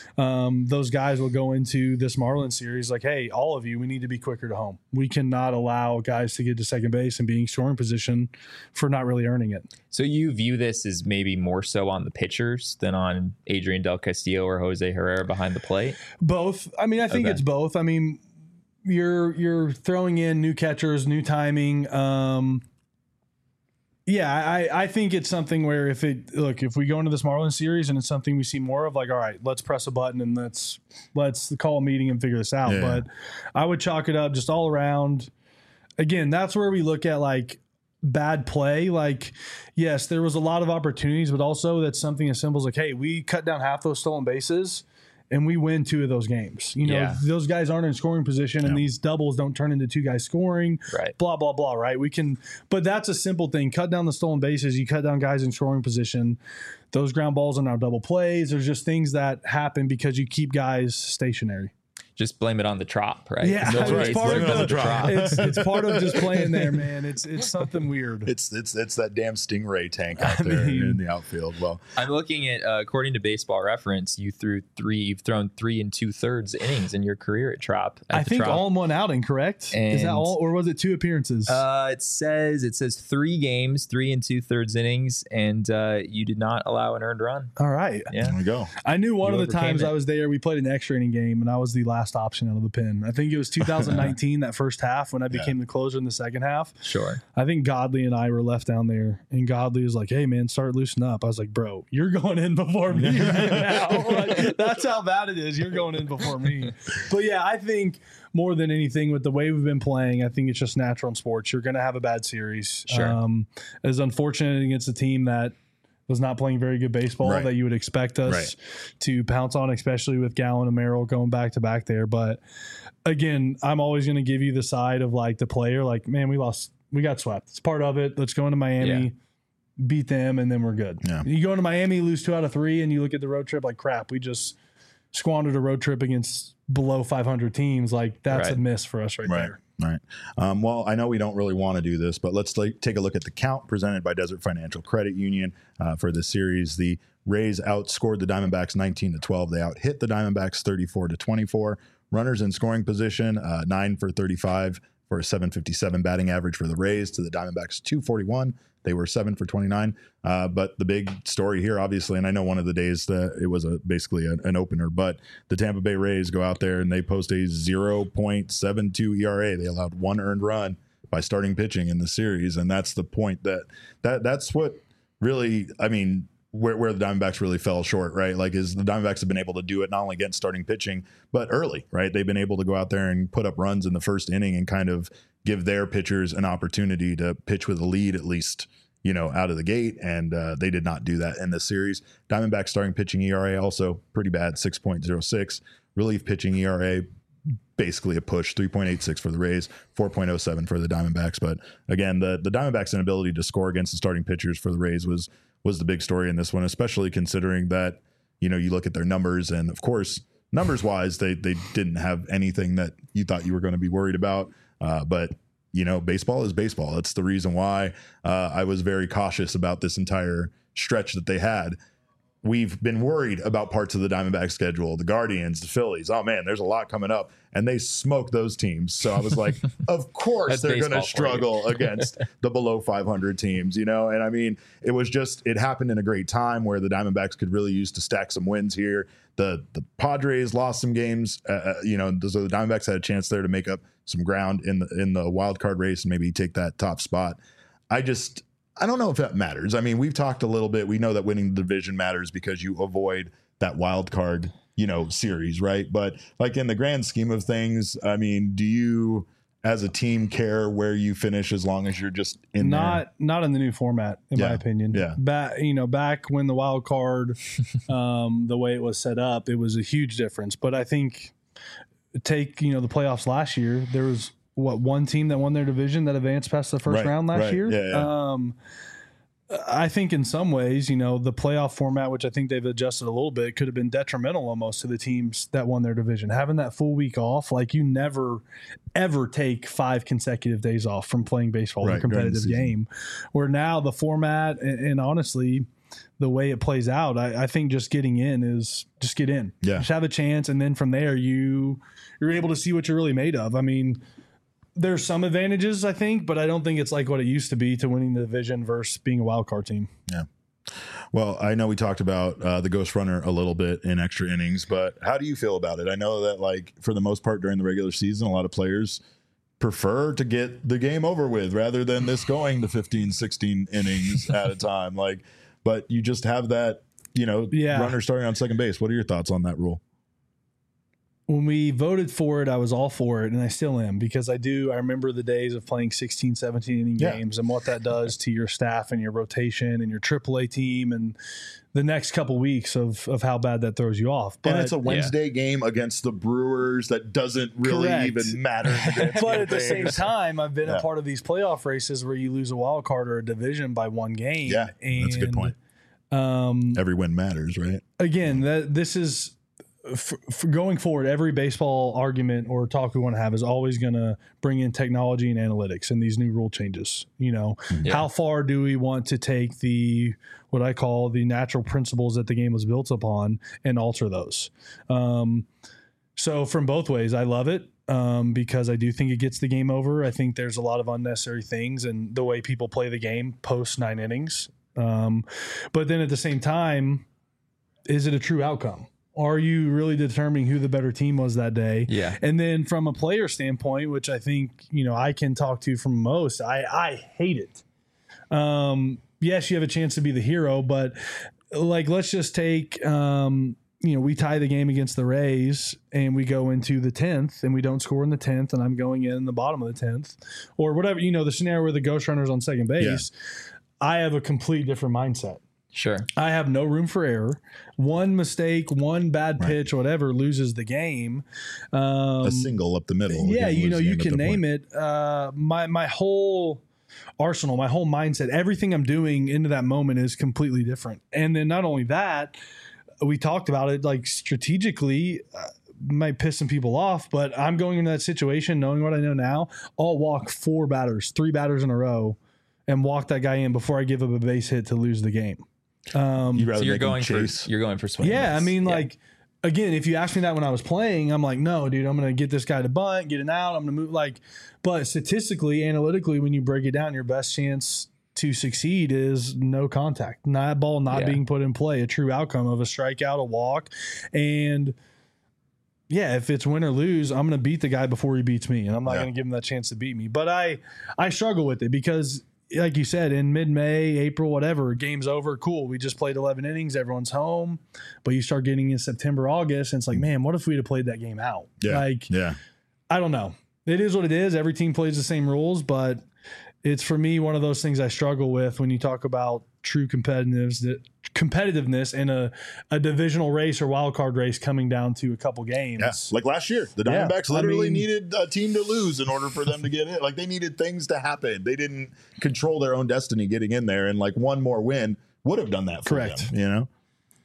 um, those guys will go into this Marlins series like, hey, all of you, we need to be quicker to home. We cannot allow guys to get to second base and being scoring position for not really earning it. So you view this as maybe more so on the pitchers than on Adrian Del Castillo or Jose Herrera behind the plate? Both. I mean, I think Okay. it's both. I mean, you're you're throwing in new catchers, new timing. Um, yeah, I, I think it's something where if it look if we go into this Marlins series and it's something we see more of, like, all right, let's press a button and let's let's call a meeting and figure this out. Yeah. But I would chalk it up just all around. Again, that's where we look at like bad play. Like, yes, there was a lot of opportunities, but also that's something as simple as like, hey, we cut down half those stolen bases and we win two of those games. You know, Yeah. those guys aren't in scoring position and Yeah. these doubles don't turn into two guys scoring. Right. Blah, blah, blah, right? We can, but that's a simple thing. Cut down the stolen bases. You cut down guys in scoring position. Those ground balls are now double plays. There's just things that happen because you keep guys stationary. Just blame it on the trop, right? Yeah, That's it's right. part Blame of it on the, the drop. it's, it's part of just playing there, man. It's it's something weird. It's it's it's that damn Stingray tank out I there mean- in the outfield. Well, I'm looking at, uh, according to Baseball Reference, you threw three, you've thrown three and two thirds innings in your career at Trop. At I the think Trop. all in one outing, correct? Is that And- all, or was it two appearances? Uh, it says it says three games, three and two thirds innings, and uh, you did not allow an earned run. all right. Yeah, there we go. I knew one You of the overcame times it. I was there, we played an extra inning game, and I was the last option out of the pen. I think it was two thousand nineteen, that first half, when I became the closer in the second half. sure. I think Godley and I were left down there, and Godley was like, hey, man, start loosening up. I was like, bro, you're going in before me right now. Like, that's how bad it is. You're going in before me. But, yeah, I think more than anything, with the way we've been playing, I think it's just natural in sports. You're going to have a bad series. Sure. Um, it's unfortunate against a team that was not playing very good baseball Right. that you would expect us Right. to pounce on, especially with Gallen and Merrill going back to back there. But again, I'm always going to give you the side of like the player, like, man, we lost, we got swept. It's part of it. Let's go into Miami, Yeah. beat them, and then we're good. Yeah. You go into Miami, lose two out of three, and you look at the road trip like, crap, we just squandered a road trip against below five hundred teams. Like, that's Right. a miss for us right, Right. there. Right. Um, well, I know we don't really want to do this, but let's like, take a look at the count presented by Desert Financial Credit Union uh, for this series. The Rays outscored the Diamondbacks nineteen to twelve. They out hit the Diamondbacks thirty-four to twenty-four. Runners in scoring position, uh, nine for thirty-five for a seven fifty-seven batting average for the Rays to the Diamondbacks two forty-one. They were seven for twenty-nine. Uh, but the big story here, obviously, and I know one of the days that it was a basically a, an opener, but the Tampa Bay Rays go out there and they post a zero point seven two E R A. They allowed one earned run by starting pitching in the series. And that's the point that, that that's what really, I mean, where, where the Diamondbacks really fell short, right? Like, is the Diamondbacks have been able to do it not only against starting pitching, but early, right? They've been able to go out there and put up runs in the first inning and kind of give their pitchers an opportunity to pitch with a lead, at least, you know, out of the gate. And uh, they did not do that in this series. Diamondbacks starting pitching E R A also pretty bad, six point oh six. Relief pitching E R A, basically a push, three point eight six for the Rays, four point oh seven for the Diamondbacks. But again, the, the Diamondbacks' inability to score against the starting pitchers for the Rays was was the big story in this one, especially considering that, you know, you look at their numbers and, of course, numbers wise, they they didn't have anything that you thought you were going to be worried about. Uh, but, you know, baseball is baseball. It's the reason why uh, I was very cautious about this entire stretch that they had. We've been worried about parts of the Diamondback schedule, the Guardians, the Phillies. Oh, man, there's a lot coming up. And they smoked those teams. So I was like, of course That's they're going to baseball for you. struggle against the below five hundred teams, you know? And I mean, it was just, it happened in a great time where the Diamondbacks could really use to stack some wins here. The the Padres lost some games, uh, you know, so the Diamondbacks had a chance there to make up some ground in the, in the wild card race and maybe take that top spot. I just, I don't know if that matters. I mean, we've talked a little bit. We know that winning the division matters because you avoid that wild card, you know, series, right? But like in the grand scheme of things, I mean, do you as a team care where you finish as long as you're just in Not not in the new format, in Yeah. my opinion. Yeah. Back you know, back when the wild card, um, the way it was set up, it was a huge difference. But I think take you know the playoffs last year, there was what one team that won their division that advanced past the first Right, round last right. year. Yeah, yeah. Um, I think in some ways, you know, the playoff format, which I think they've adjusted a little bit, could have been detrimental almost to the teams that won their division. Having that full week off, like you never, ever take five consecutive days off from playing baseball in Right, a competitive during the season. game. Where now the format and, and honestly, the way it plays out, I, I think just getting in is just get in. Yeah. Just have a chance, and then from there you you're able to see what you're really made of. I mean, there's some advantages, I think, but I don't think it's like what it used to be to winning the division versus being a wild card team. Yeah. Well, I know we talked about uh, the Ghost Runner a little bit in extra innings, but how do you feel about it? I know that, like, for the most part during the regular season, a lot of players prefer to get the game over with rather than this going to fifteen, sixteen innings at a time. Like, but you just have that, you know, Yeah. runner starting on second base. What are your thoughts on that rule? When we voted for it, I was all for it, and I still am, because I do. I remember the days of playing sixteen, seventeen inning Yeah. games and what that does to your staff and your rotation and your triple A team and the next couple weeks of, of how bad that throws you off. But, and it's a Wednesday game against the Brewers that doesn't really Correct. even matter. in the grand but scheme at of the same things. time, I've been Yeah. a part of these playoff races where you lose a wild card or a division by one game. Yeah, that's a good And, point. Um, Every win matters, right? again, that this is for, for going forward. Every baseball argument or talk we want to have is always going to bring in technology and analytics and these new rule changes. You know, Yeah. how far do we want to take the what I call the natural principles that the game was built upon and alter those? Um, so from both ways, I love it. Um, because I do think it gets the game over. I think there's a lot of unnecessary things and the way people play the game post nine innings. Um, but then at the same time, is it a true outcome? Are you really determining who the better team was that day? Yeah. And then from a player standpoint, which I think, you know, I can talk to from most, I, I hate it. Um, yes, you have a chance to be the hero, but like, let's just take, um, you know, we tie the game against the Rays and we go into the tenth and we don't score in the tenth and I'm going in the bottom of the tenth or whatever, you know, the scenario where the Ghost Runner's on second base. I have a complete different mindset. Sure. I have no room for error. One mistake, one bad Right. pitch, whatever, loses the game. Um, A single up the middle. yeah, can you lose know, the you game at can the name point. it. Uh, my my whole arsenal, my whole mindset, everything I'm doing into that moment is completely different. And then not only that, we talked about it like strategically. Uh, might piss some people off, but I'm going into that situation knowing what I know now. I'll walk four batters, three batters in a row, and walk that guy in before I give up a base hit to lose the game. Um, You'd rather So you're make him going for chase. you're going for swing. and yeah, I miss. mean, Yeah. like, again, if you asked me that when I was playing, I'm like, no, dude, I'm going to get this guy to bunt, get an out. I'm going to move. Like, but statistically, analytically, when you break it down, your best chance to succeed is no contact, not ball not Yeah. being put in play, a true outcome of a strikeout, a walk, and. Yeah, if it's win or lose, I'm going to beat the guy before he beats me, and I'm not Yeah. going to give him that chance to beat me. But I, I struggle with it because, like you said, in mid-May, April, whatever, game's over. Cool, we just played eleven innings, everyone's home. But you start getting in September, August, and it's like, man, what if we'd have played that game out? Yeah. Like, Yeah. I don't know. It is what it is. Every team plays the same rules, but it's for me one of those things I struggle with when you talk about true competitiveness, competitiveness in a, a divisional race or wild card race coming down to a couple games. Yeah, like last year, the Yeah, Diamondbacks I literally mean- needed a team to lose in order for them to get in. Like they needed things to happen. They didn't control their own destiny getting in there, and like one more win would have done that for Correct. them. You know,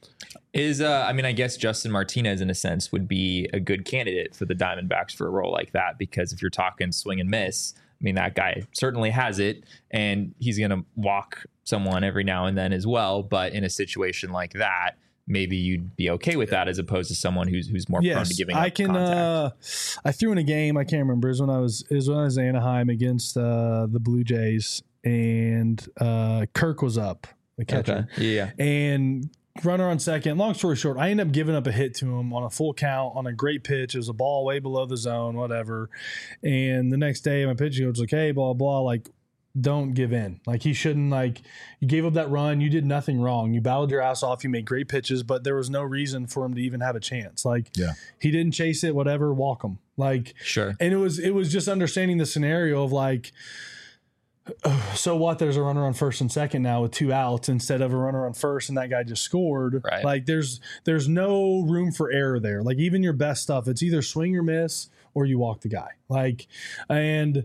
Is uh, I mean, I guess Justin Martinez, in a sense, would be a good candidate for the Diamondbacks for a role like that, because if you're talking swing and miss, I mean, that guy certainly has it, and he's going to walk someone every now and then as well. But in a situation like that, maybe you'd be okay with that as opposed to someone who's who's more prone to giving up I can. contact. Uh, I threw in a game. I can't remember. It was when I was. It was when I was in Anaheim against uh, the Blue Jays, and uh, Kirk was up, the catcher, Okay. Yeah. and runner on second. Long story short, I ended up giving up a hit to him on a full count on a great pitch. It was a ball way below the zone, whatever. And the next day, my pitching coach was like, "Hey, blah blah, like." Don't give in. Like he shouldn't. Like you gave up that run. You did nothing wrong. You battled your ass off. You made great pitches, but there was no reason for him to even have a chance. Like Yeah. he didn't chase it. Whatever. Walk him. Like Sure. and it was it was just understanding the scenario of like, oh, so what? There's a runner on first and second now with two outs instead of a runner on first, and that guy just scored. Right. Like there's there's no room for error there. Like even your best stuff, it's either swing or miss or you walk the guy. Like and.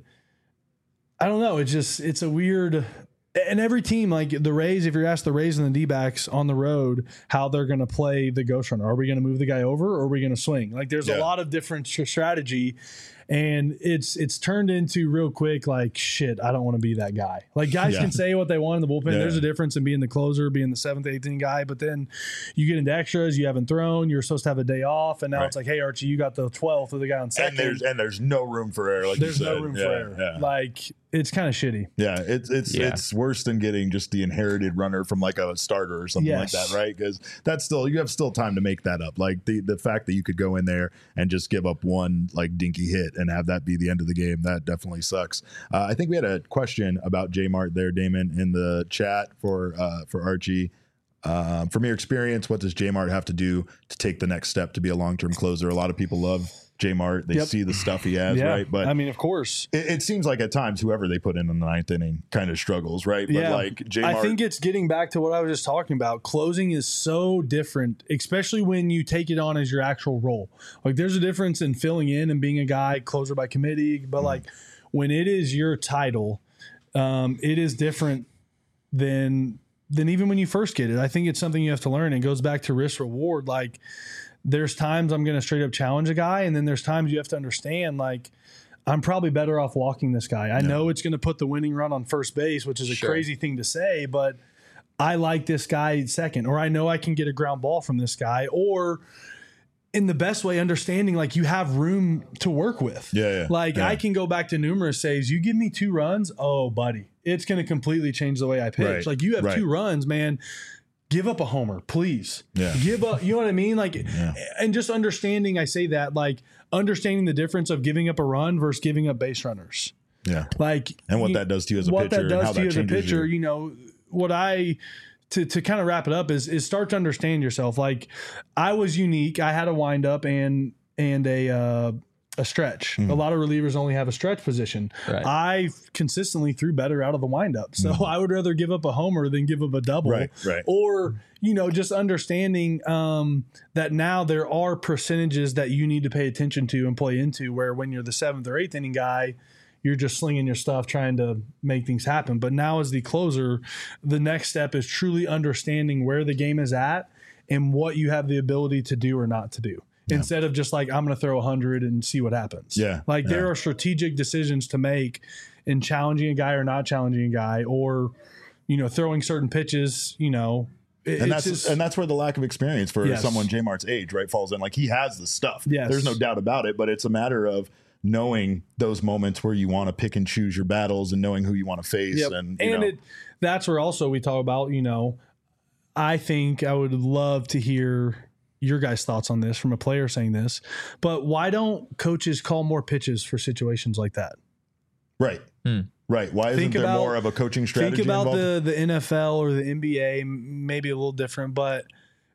I don't know. It's just, it's a weird, and every team, like the Rays, if you're asked the Rays and the D-backs on the road, how they're going to play the ghost runner. Are we going to move the guy over or are we going to swing? Like there's Yeah. a lot of different st- strategy, and it's, it's turned into real quick, like, shit, I don't want to be that guy. Like guys Yeah. can say what they want in the bullpen. Yeah. There's a difference in being the closer, being the seventh, eighth inning guy, but then you get into extras, you haven't thrown, you're supposed to have a day off, and now Right. it's like, hey, Archie, you got the twelfth of the guy on second. and there's and there's no room for error. Like There's you said. no room yeah, for error. Yeah. Like it's kind of shitty. Yeah, it's it's Yeah. it's worse than getting just the inherited runner from like a starter or something Yes. like that, right? Because that's still you have still time to make that up. Like the the fact that you could go in there and just give up one like dinky hit and have that be the end of the game, that definitely sucks. Uh, I think we had a question about J Mart there, Damon, in the chat for uh, for Archie. Um, from your experience, what does J Mart have to do to take the next step to be a long term closer? A lot of people love J Mart; they Yep. see the stuff he has, Yeah. right? But I mean, of course. it, it seems like at times whoever they put in in the ninth inning kind of struggles, right? But Yeah. like J I Mart, think it's getting back to what I was just talking about. Closing is so different, especially when you take it on as your actual role. Like there's a difference in filling in and being a guy closer by committee, but Mm-hmm. like when it is your title, um, it is different than than even when you first get it. I think it's something you have to learn. It goes back to risk reward. Like there's times I'm going to straight up challenge a guy, and then there's times you have to understand like I'm probably better off walking this guy. I know it's going to put the winning run on first base, which is a Sure. crazy thing to say, but I like this guy second, or I know I can get a ground ball from this guy, or in the best way, understanding like you have room to work with. Yeah, yeah, Like yeah. I can go back to numerous saves. You give me two runs, oh buddy, it's going to completely change the way I pitch. Right, Like you have right. two runs, man. Give up a homer, please. Yeah. Give up. You know what I mean? Like, and just understanding. I say that like understanding the difference of giving up a run versus giving up base runners. yeah, Like, and what you- that does to you as a what pitcher, that and does how to you that as a changes pitcher. you. You know what I to to kind of wrap it up is is start to understand yourself. Like I was unique. I had a windup and and a uh, a stretch. Mm-hmm. A lot of relievers only have a stretch position. Right. I consistently threw better out of the windup. So Mm-hmm. I would rather give up a homer than give up a double. Right, right. Or, you know, just understanding um, that now there are percentages that you need to pay attention to and play into, where when you're the seventh or eighth inning guy, you're just slinging your stuff trying to make things happen. But now as the closer, the next step is truly understanding where the game is at and what you have the ability to do or not to do. Yeah. Instead of just like, I'm going to throw one hundred and see what happens. Yeah. Like yeah. there are strategic decisions to make in challenging a guy or not challenging a guy, or, you know, throwing certain pitches, you know. It, and that's just, and that's where the lack of experience for yes. someone J-Mart's age, right, falls in. Like he has the stuff. Yes. There's no doubt about it, but it's a matter of knowing those moments where you want to pick and choose your battles and knowing who you want to face. Yep. And, you and know. it, that's where also we talk about, you know, I think I would love to hear your guys' thoughts on this from a player saying this, but why don't coaches call more pitches for situations like that? Right. Hmm. Right. Why isn't Think there about- more of a coaching strategy Think about involved? the, the N F L or the N B A, m- maybe a little different, but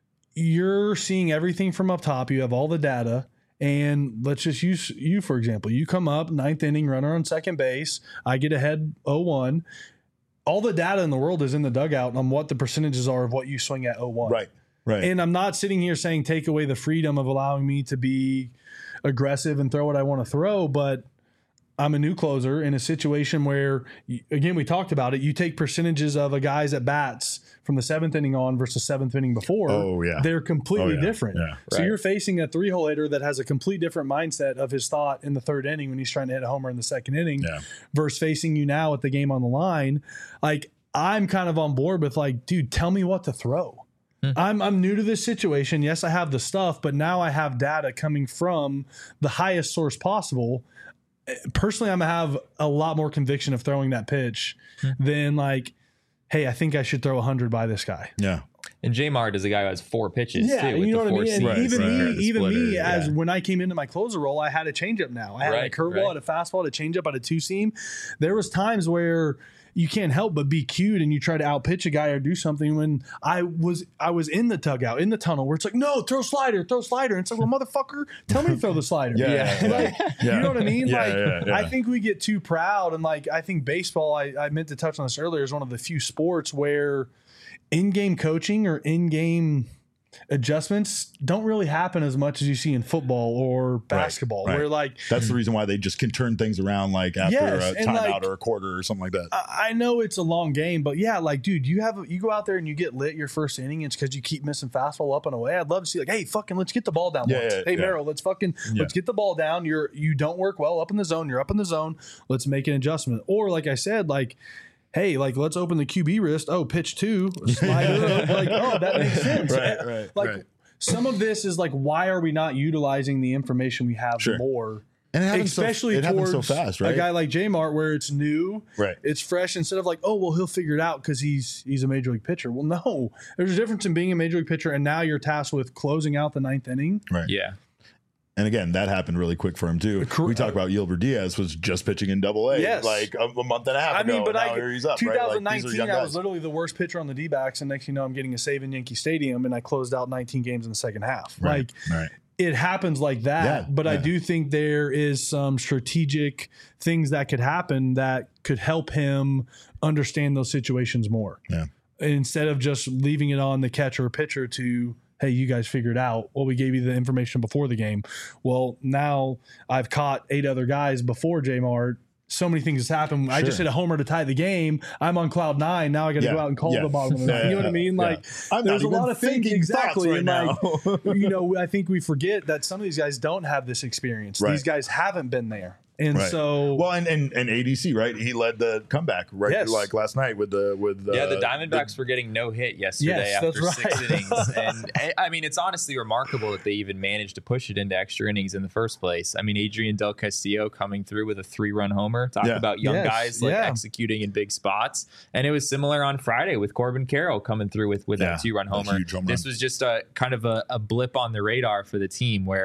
you're seeing everything from up top. You have all the data. And let's just use you, for example. You come up, ninth inning, runner on second base. I get ahead oh one. All the data in the world is in the dugout on what the percentages are of what you swing at oh one. Right. Right. And I'm not sitting here saying take away the freedom of allowing me to be aggressive and throw what I want to throw, but I'm a new closer in a situation where, again, we talked about it. You take percentages of a guy's at bats from the seventh inning on versus seventh inning before. Oh, yeah. They're completely Oh, yeah. different. Yeah. So Right. you're facing a three hole hitter that has a complete different mindset of his thought in the third inning when he's trying to hit a homer in the second inning Yeah. versus facing you now with the game on the line. Like, I'm kind of on board with like, dude, tell me what to throw. I'm I'm new to this situation. Yes, I have the stuff, but now I have data coming from the highest source possible. Personally, I'm gonna have a lot more conviction of throwing that pitch than like, hey, I think I should throw one hundred by this guy. Yeah. And J-Mart is a guy who has four pitches Yeah, too. With you know the what I four mean. And seams. even Right, me, right. The even me, splitter, as yeah. when I came into my closer role, I had a changeup. Now I had Right, a curveball, right. I had a fastball, a changeup, I had a two seam. There was times where you can't help but be cute and you try to outpitch a guy or do something. When I was I was in the dugout, in the tunnel, where it's like, no, throw slider, throw slider. And it's like, well, motherfucker, tell me to throw the slider. Yeah. yeah, yeah. Like, Yeah. you know what I mean? Yeah, like, yeah, yeah. I think we get too proud. And like, I think baseball, I, I meant to touch on this earlier, is one of the few sports where in-game coaching or in-game adjustments don't really happen as much as you see in football or basketball, right. where like, That's the reason why they just can turn things around like after Yes, a and timeout like- or a quarter or something like that. I I know it's a long game, but yeah, like, dude, you have you go out there and you get lit your first inning. It's because you keep missing fastball up and away. I'd love to see like, hey, fucking, let's get the ball down. Yeah, once. yeah, hey, yeah. Merrill, let's fucking Yeah. let's get the ball down. You're you don't work well up in the zone. You're up in the zone. Let's make an adjustment. Or like I said, like, hey, like, let's open the Q B wrist. Oh, pitch two, slider. Like, oh, that makes sense. Right, right, like right. some of this is like, why are we not utilizing the information we have Sure. more? And it happens so- Especially it happens towards so fast, right? a guy like J-Mart, where it's new, Right. it's fresh. Instead of like, oh, well, he'll figure it out because he's he's a major league pitcher. Well, no, there's a difference in being a major league pitcher and now you're tasked with closing out the ninth inning. Right. Yeah. And again, that happened really quick for him too. Cor- We talk about Yilver Diaz was just pitching in Double A, Yes. like a, a month and a half I ago. mean, but now I here he's up. Right? Like, twenty these are nineteen, young I was guys. literally the worst pitcher on the D-backs, and next thing you know, I'm getting a save in Yankee Stadium, and I closed out nineteen games in the second half. Right, Like, right. it happens like that. Yeah, but I yeah. do think there is some strategic things that could happen that could help him understand those situations more. Yeah. Instead of just leaving it on the catcher or pitcher to, hey, you guys figure it out. Well, we gave you the information before the game. Well, now I've caught eight other guys before J-Mart. So many things has happened. I just Sure. hit a homer to tie the game. I'm on cloud nine. Now I got to Yeah, go out and call yeah. the bottom of the ninth. Yeah, You know what I mean? yeah. Like, I'm there's a not even lot of things thinking exactly. thoughts And right like, you know, I think we forget that some of these guys don't have this experience. Right. These guys haven't been there, and Right. so Well, and, and and A D C, right? He led the comeback, right? Yes. Like last night with the with uh, Yeah, the Diamondbacks were getting no hit yesterday Yes, that's after six right. innings, and I- I mean it's honestly remarkable that they even managed to push it into extra innings in the first place. I mean, Adrian Del Castillo coming through with a three-run homer. Talk Yeah. about young Yes, guys like yeah. executing in big spots, and it was similar on Friday with Corbin Carroll coming through with with Yeah, that two-run a homer. huge home This run. was just a kind of a, a blip on the radar for the team where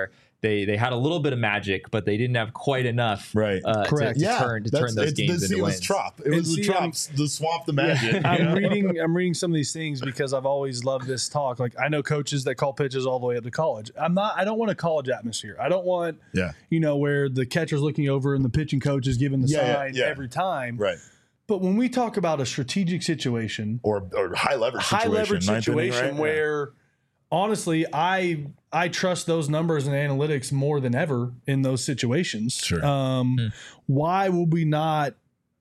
they they had a little bit of magic, but they didn't have quite enough. Right. Uh, Correct. To, to yeah, turn to that's- turn those it's- games the, into it was wins. Trop. It And was the see, Trop, the swamp, the magic. I'm you know? reading I'm reading some of these things because I've always loved this talk. Like I know coaches that call pitches all the way up to college. I'm not I don't want a college atmosphere. I don't want Yeah. you know where the catcher's looking over and the pitching coach is giving the Yeah, yeah, sign yeah. every time. Right. But when we talk about a strategic situation, Or or high leverage high situation. leverage ninth inning, situation right? where honestly I I trust those numbers and analytics more than ever in those situations. Sure. Um, Hmm. Why would we not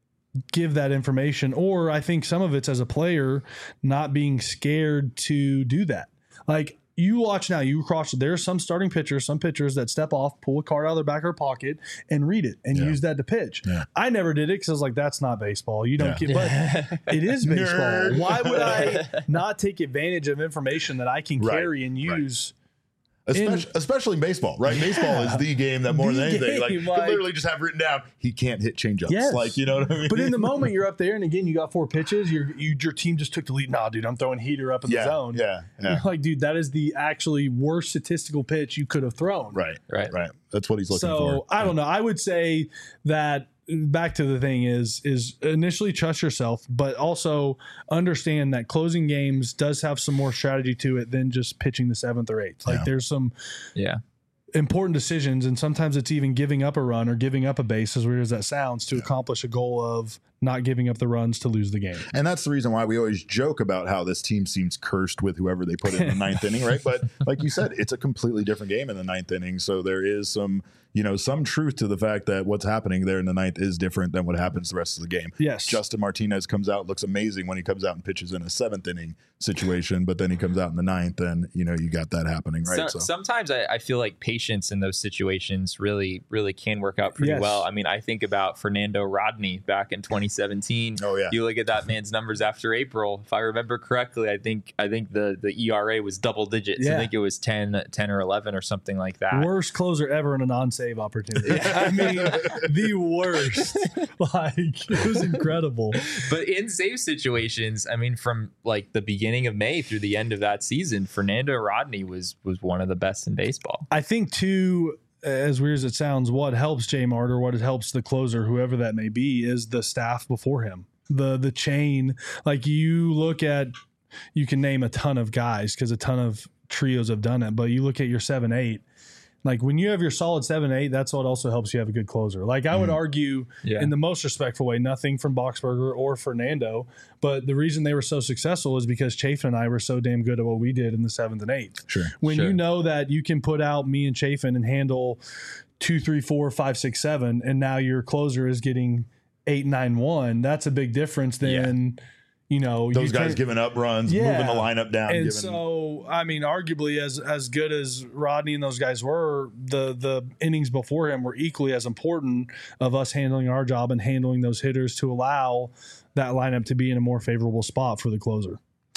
give that information? Or I think some of it's as a player not being scared to do that. Like you watch now, you cross. There's some starting pitchers, some pitchers that step off, pull a card out of their back of their pocket, and read it and Yeah. use that to pitch. Yeah. I never did it because I was like, "That's not baseball. You don't Yeah. get." But it is baseball. Nerd. Why would I not take advantage of information that I can Right. carry and Right. use? Especially, especially in baseball, right? Baseball is the game that more The than anything, like, game, you like- can literally just have written down, he can't hit changeups. Yes. Like, you know what I mean? But in the moment you're up there, and again you got four pitches, your you, your team just took the lead. Nah, dude, I'm throwing heater up in yeah, the zone. yeah, yeah. You're like, dude, that is the actually worst statistical pitch you could have thrown. Right, Right. right. That's what he's looking So for. I don't know. I would say that back to the thing is is initially trust yourself, but also understand that closing games does have some more strategy to it than just pitching the seventh or eighth. Like Yeah. there's some Yeah. important decisions, and sometimes it's even giving up a run or giving up a base, as weird as that sounds, to accomplish a goal of not giving up the runs to lose the game. And that's the reason why we always joke about how this team seems cursed with whoever they put in the ninth inning, right? But like you said, it's a completely different game in the ninth inning. So there is some, you know, some truth to the fact that what's happening there in the ninth is different than what happens the rest of the game. Yes. Justin Martinez comes out, looks amazing when he comes out and pitches in a seventh inning situation, but then he comes out in the ninth and, you know, you got that happening, right? So, sometimes I, I feel like patience in those situations really, really can work out pretty Yes. well. I mean, I think about Fernando Rodney back in twenty seventeen. Oh, yeah. You look at that man's numbers after April. If I remember correctly, I think I think the, the E R A was double digits. Yeah. I think it was ten, ten or eleven or something like that. Worst closer ever in a non-save opportunity. I mean, the worst. Like, it was incredible. But in save situations, I mean, from like the beginning of May through the end of that season, Fernando Rodney was was one of the best in baseball. I think, too, as weird as it sounds, what helps J Mart or what helps the closer, whoever that may be, is the staff before him. The the chain. Like, you look at, you can name a ton of guys because a ton of trios have done it, but you look at your seven eight. Like, when you have your solid seven eight, that's what also helps you have a good closer. Like, I would argue, Yeah. in the most respectful way, nothing from Boxberger or Fernando, but the reason they were so successful is because Chafin and I were so damn good at what we did in the seventh and eighth. Sure. When Sure. you know that you can put out me and Chafin and handle two, three, four, five, six, seven, and now your closer is getting eight, nine, one, that's a big difference than, you know, Those you guys turn- giving up runs, Yeah. moving the lineup down. and giving, so, I mean, arguably, as as good as Rodney and those guys were, the the innings before him were equally as important of us handling our job and handling those hitters to allow that lineup to be in a more favorable spot for the closer.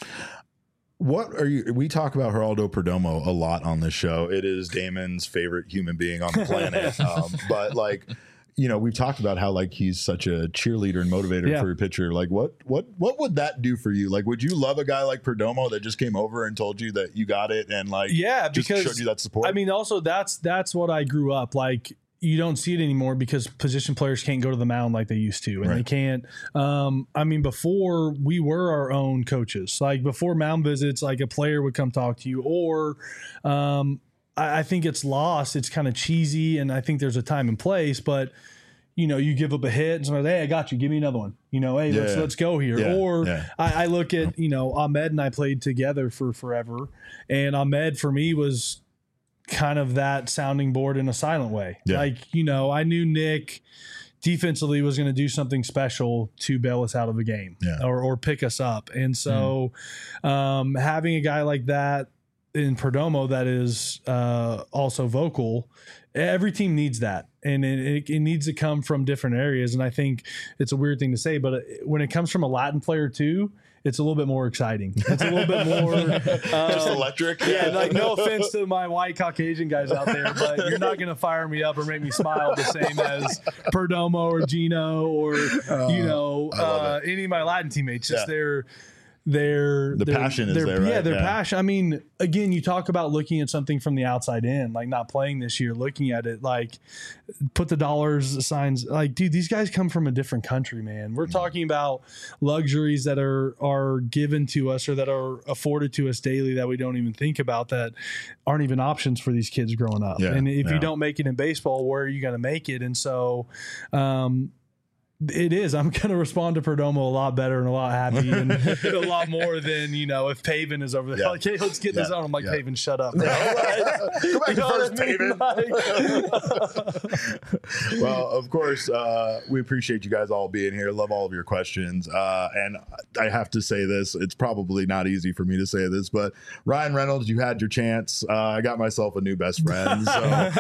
What are you? We talk about Geraldo Perdomo a lot on this show. It is Damon's favorite human being on the planet. um, but like, you know, we've talked about how like he's such a cheerleader and motivator Yeah. for a pitcher. Like, what what what would that do for you? Like, would you love a guy like Perdomo that just came over and told you that you got it and like, Yeah, just because showed you that support? I mean, also that's that's what I grew up like. You don't see it anymore because position players can't go to the mound like they used to, and Right. they can't. Um, I mean, before we were our own coaches. Like before mound visits, like a player would come talk to you, or um, I, I think it's lost. It's kind of cheesy, and I think there's a time and place, but. You know, you give up a hit and somebody's, hey, I got you. Give me another one. You know, hey, let's Yeah. let's go here. Yeah, Or yeah. I, I look at, you know, Ahmed and I played together for forever. And Ahmed for me was kind of that sounding board in a silent way. Yeah. Like, you know, I knew Nick defensively was going to do something special to bail us out of the game Yeah. or, or pick us up. And so um, having a guy like that in Perdomo that is uh, also vocal, every team needs that. And it, it needs to come from different areas. And I think it's a weird thing to say, but when it comes from a Latin player too, it's a little bit more exciting. It's a little bit more just um, electric. yeah, like no offense to my white Caucasian guys out there, but you're not going to fire me up or make me smile the same as Perdomo or Gino or you know I love uh, any of my Latin teammates. Just Yeah. they're their The their, passion is their, there, right? Yeah, their Yeah. passion. I mean, again, you talk about looking at something from the outside in, like not playing this year, looking at it, like put the dollars signs. Like, dude, these guys come from a different country, man. We're talking about luxuries that are are given to us or that are afforded to us daily that we don't even think about, that aren't even options for these kids growing up. Yeah, and if yeah. you don't make it in baseball, where are you going to make it? And so, um, it is. I'm going to respond to Perdomo a lot better and a lot happy and a lot more than, you know, if Paven is over there. Yeah. Like, hey, let's get in Yeah. the zone. I'm like, Yeah. Paven, shut up. Bro. Go back You to know first, what I mean? Paven. Well, of course, uh, we appreciate you guys all being here. Love all of your questions. Uh, and I have to say this. It's probably not easy for me to say this, but Ryan Reynolds, you had your chance. Uh, I got myself a new best friend. So,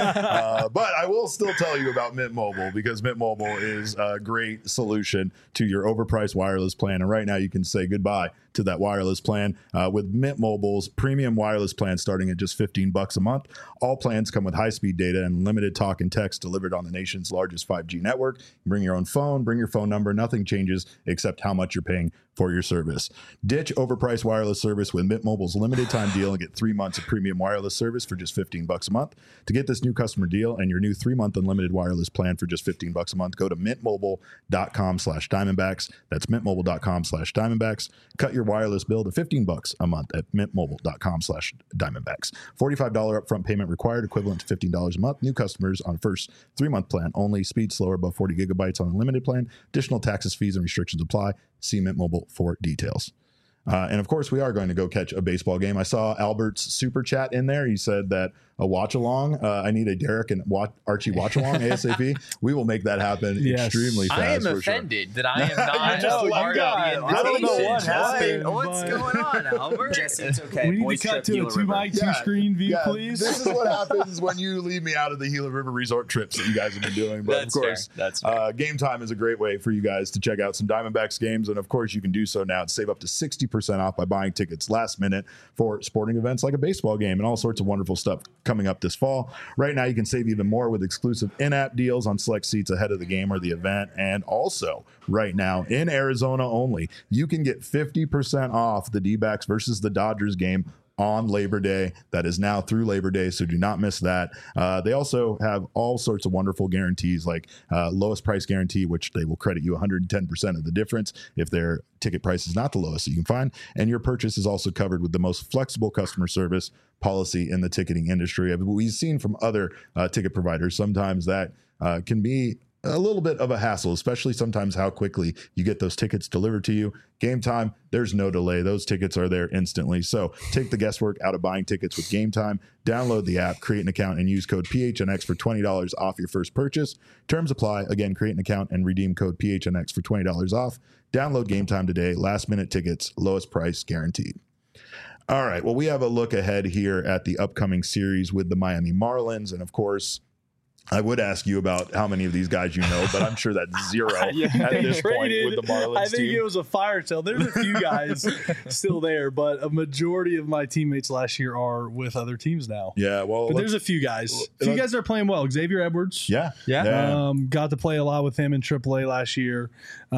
uh, but I will still tell you about Mint Mobile, because Mint Mobile is a great solution to your overpriced wireless plan. And right now you can say goodbye to that wireless plan uh, with Mint Mobile's premium wireless plan starting at just fifteen bucks a month. All plans come with high-speed data and limited talk and text delivered on the nation's largest five G network. You bring your own phone, bring your phone number. Nothing changes except how much you're paying for your service. Ditch overpriced wireless service with Mint Mobile's limited time deal and get three months of premium wireless service for just fifteen bucks a month. To get this new customer deal and your new three-month unlimited wireless plan for just fifteen bucks a month, go to mintmobile.com slash diamondbacks. That's mintmobile.com slash diamondbacks. Cut your wireless bill to fifteen bucks a month at mintmobile.com slash diamondbacks. forty-five dollars upfront payment required, equivalent to fifteen dollars a month. New customers on first three-month plan only. Speed slower above forty gigabytes on unlimited plan. Additional taxes, fees, and restrictions apply. See Mint Mobile for details. Uh, and of course, we are going to go catch a baseball game. I saw Albert's super chat in there. He said that a watch along. Uh, I need a Derek and watch, Archie watch along ASAP. We will make that happen Yes. extremely fast. I am for offended that I am not You're just a like part of God. the I don't know invitation. what happened, What- What's but- going on, Albert? Jesse, it's okay. We need Boys to cut trip to a Gila two River. mic, two Yeah. screen view, Yeah, please. This is what happens when you leave me out of the Gila River Resort trips that you guys have been doing. But That's of course, fair. That's fair. Uh, Game Time is a great way for you guys to check out some Diamondbacks games. And of course, you can do so now to save up to sixty percent off by buying tickets last minute for sporting events like a baseball game and all sorts of wonderful stuff coming up this fall. Right now, you can save even more with exclusive in-app deals on select seats ahead of the game or the event. And also, right now, in Arizona only, you can get fifty percent off the D-backs versus the Dodgers game on Labor Day. That is now through Labor Day, so do not miss that. Uh, they also have all sorts of wonderful guarantees, like uh, lowest price guarantee, which they will credit you one hundred ten percent of the difference if their ticket price is not the lowest that you can find. And your purchase is also covered with the most flexible customer service policy in the ticketing industry. I mean, we've seen from other uh, ticket providers, sometimes that uh, can be a little bit of a hassle, especially sometimes how quickly you get those tickets delivered to you. Game Time, there's no delay. Those tickets are there instantly. So take the guesswork out of buying tickets with Game Time. Download the app, create an account, and use code P H N X for twenty dollars off your first purchase. Terms apply. Again, create an account and redeem code P H N X for twenty dollars off. Download Game Time today. Last minute tickets, lowest price guaranteed. All right. Well, we have a look ahead here at the upcoming series with the Miami Marlins. And of course, I would ask you about how many of these guys you know, but I'm sure that's zero Yeah, at they this point traded. with the Marlins I think team. it was a fire sale. There's a few guys still there, but a majority of my teammates last year are with other teams now. Yeah, well, But let's- there's a few guys. A few let's- guys that are playing well. Xavier Edwards. yeah, Yeah. Um, got to play a lot with him in triple A last year.